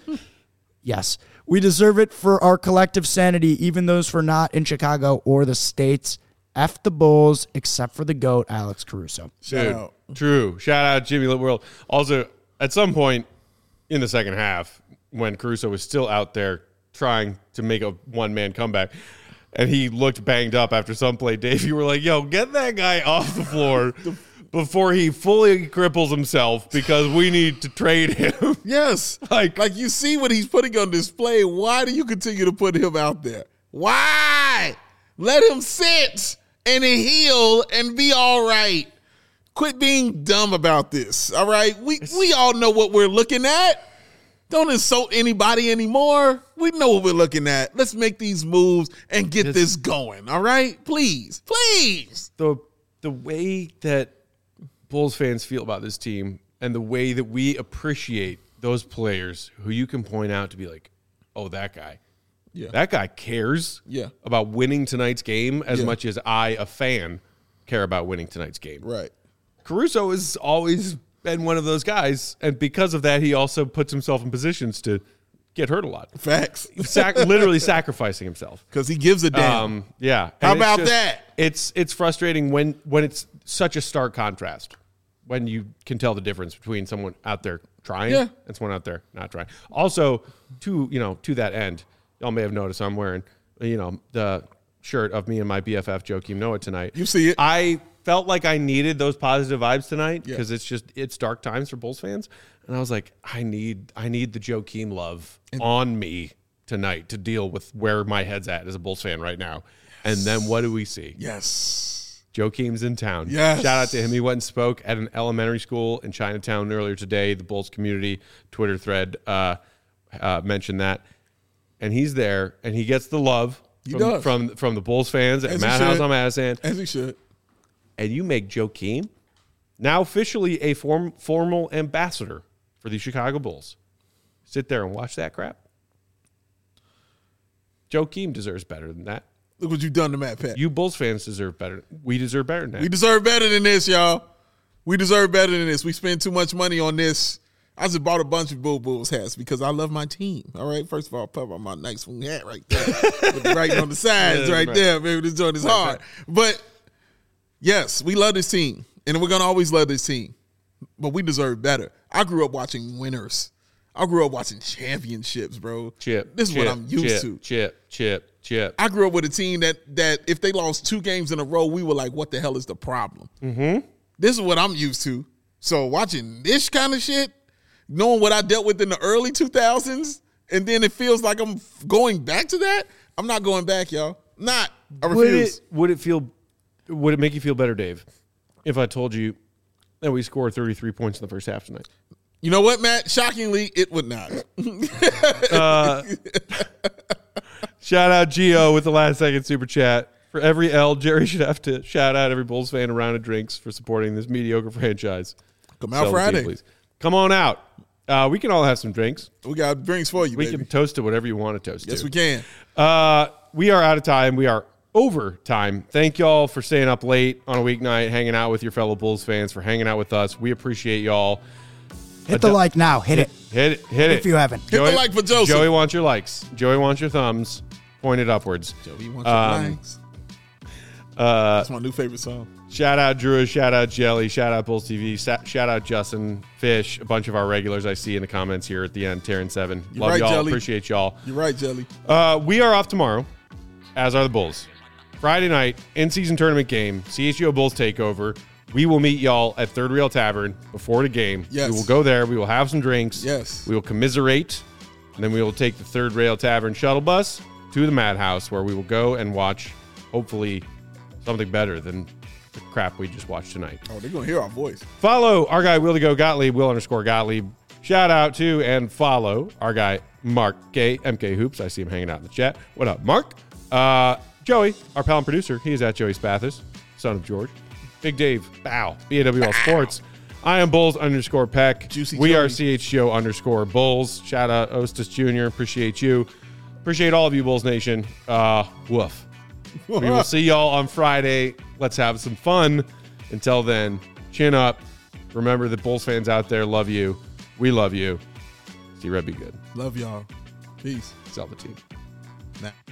Yes. We deserve it for our collective sanity, even those for not in Chicago or the States. F the Bulls, except for the GOAT, Alex Caruso. Shout Dude, out. true. Shout out Jimmy Lit World. Also, at some point in the second half, when Caruso was still out there trying to make a one-man comeback, and he looked banged up after some play, Dave, you were like, yo, get that guy off the floor before he fully cripples himself because we need to trade him. Yes. Like- like you see what he's putting on display. Why do you continue to put him out there? Why? Let him sit and heal and be all right. Quit being dumb about this. All right. We all know what we're looking at. Don't insult anybody anymore. We know what we're looking at. Let's make these moves and get this going. All right? Please. Please. The way that Bulls fans feel about this team and the way that we appreciate those players who you can point out to be like, oh, that guy. Yeah. That guy cares Yeah. about winning tonight's game as Yeah. much as I, a fan, care about winning tonight's game. Right. Caruso has always been one of those guys, and because of that, he also puts himself in positions to get hurt a lot. Facts. Literally sacrificing himself. Because he gives a damn. Yeah. How And it's about that? It's frustrating when it's such a stark contrast, when you can tell the difference between someone out there trying Yeah. and someone out there not trying. Also, to that end, y'all may have noticed I'm wearing, the shirt of me and my BFF Joakim Noah tonight. You see it. I felt like I needed those positive vibes tonight Yeah. because it's dark times for Bulls fans, and I was like, I need the Joakim love on me tonight to deal with where my head's at as a Bulls fan right now. And then what do we see? Yes. Joakim's in town. Yes. Shout out to him. He went and spoke at an elementary school in Chinatown earlier today. The Bulls community Twitter thread mentioned that. And he's there, and he gets the love does. from the Bulls fans at As he Madhouse should. on Madison. As he should. And you make Joakim now officially a formal ambassador for the Chicago Bulls. Sit there and watch that crap. Joakim deserves better than that. Look what you've done to Matt Pat. You Bulls fans deserve better. We deserve better than that. We deserve better than this, y'all. We deserve better than this. We spend too much money on this. I just bought a bunch of Bulls hats because I love my team. All right. First of all, put on my nice swing hat right there. With the writing on the sides Yeah, right right. there. Baby, this joint is hard. But yes, we love this team. And we're going to always love this team. But we deserve better. I grew up watching winners. I grew up watching championships, bro. This is what I'm used to. Chip. I grew up with a team that if they lost 2 games in a row, we were like, what the hell is the problem? Mm-hmm. This is what I'm used to. So watching this kind of shit, knowing what I dealt with in the early 2000s, and then it feels like I'm going back to that, I'm not going back, y'all. Not. I refuse. Would it make you feel better, Dave, if I told you that we scored 33 points in the first half tonight? You know what, Matt? Shockingly, it would not. Shout out Gio with the last second super chat. For every L, Jerry should have to shout out every Bulls fan a round of drinks for supporting this mediocre franchise. Come out Sell the team, Friday. please. Come on out. We can all have some drinks. We got drinks for you, We baby. can toast to whatever you want to toast to. Yes, we can. We are out of time. We are overtime. Thank y'all for staying up late on a weeknight, hanging out with your fellow Bulls fans, for hanging out with us. We appreciate y'all. Hit the like now. Hit it. Hit it. If you haven't. Hit the like for Joseph. Joey wants your likes. Joey wants your thumbs pointed upwards. Joey wants your likes. That's my new favorite song. Shout out Drew, shout out Jelly, shout out Bulls TV, shout out Justin, Fish, a bunch of our regulars I see in the comments here at the end, Terran7. Love right, y'all, Jelly. appreciate y'all. You're right, Jelly. We are off tomorrow, as are the Bulls. Friday night, in-season tournament game, CHGO Bulls takeover. We will meet y'all at Third Rail Tavern before the game. Yes. We will go there. We will have some drinks. Yes. We will commiserate. And then we will take the Third Rail Tavern shuttle bus to the Madhouse, where we will go and watch, hopefully, something better than the crap we just watched tonight. Oh, they're going to hear our voice. Follow our guy, Will to Go Gottlieb, Will_Gottlieb. Shout out to and follow our guy, Mark K, MK Hoops. I see him hanging out in the chat. What up, Mark? Joey, our pal and producer. He is at Joey Spathis, son of George. Big Dave, Bow, BAWL Sports. I am Bulls_Peck. Juicy we Joey. are CHGO_Bulls. Shout out Ostis Jr. Appreciate you. Appreciate all of you, Bulls Nation. Woof. We will see y'all on Friday. Let's have some fun. Until then, chin up. Remember that Bulls fans out there love you. We love you. See Red be good. Love y'all. Peace. Sell the team. Nah.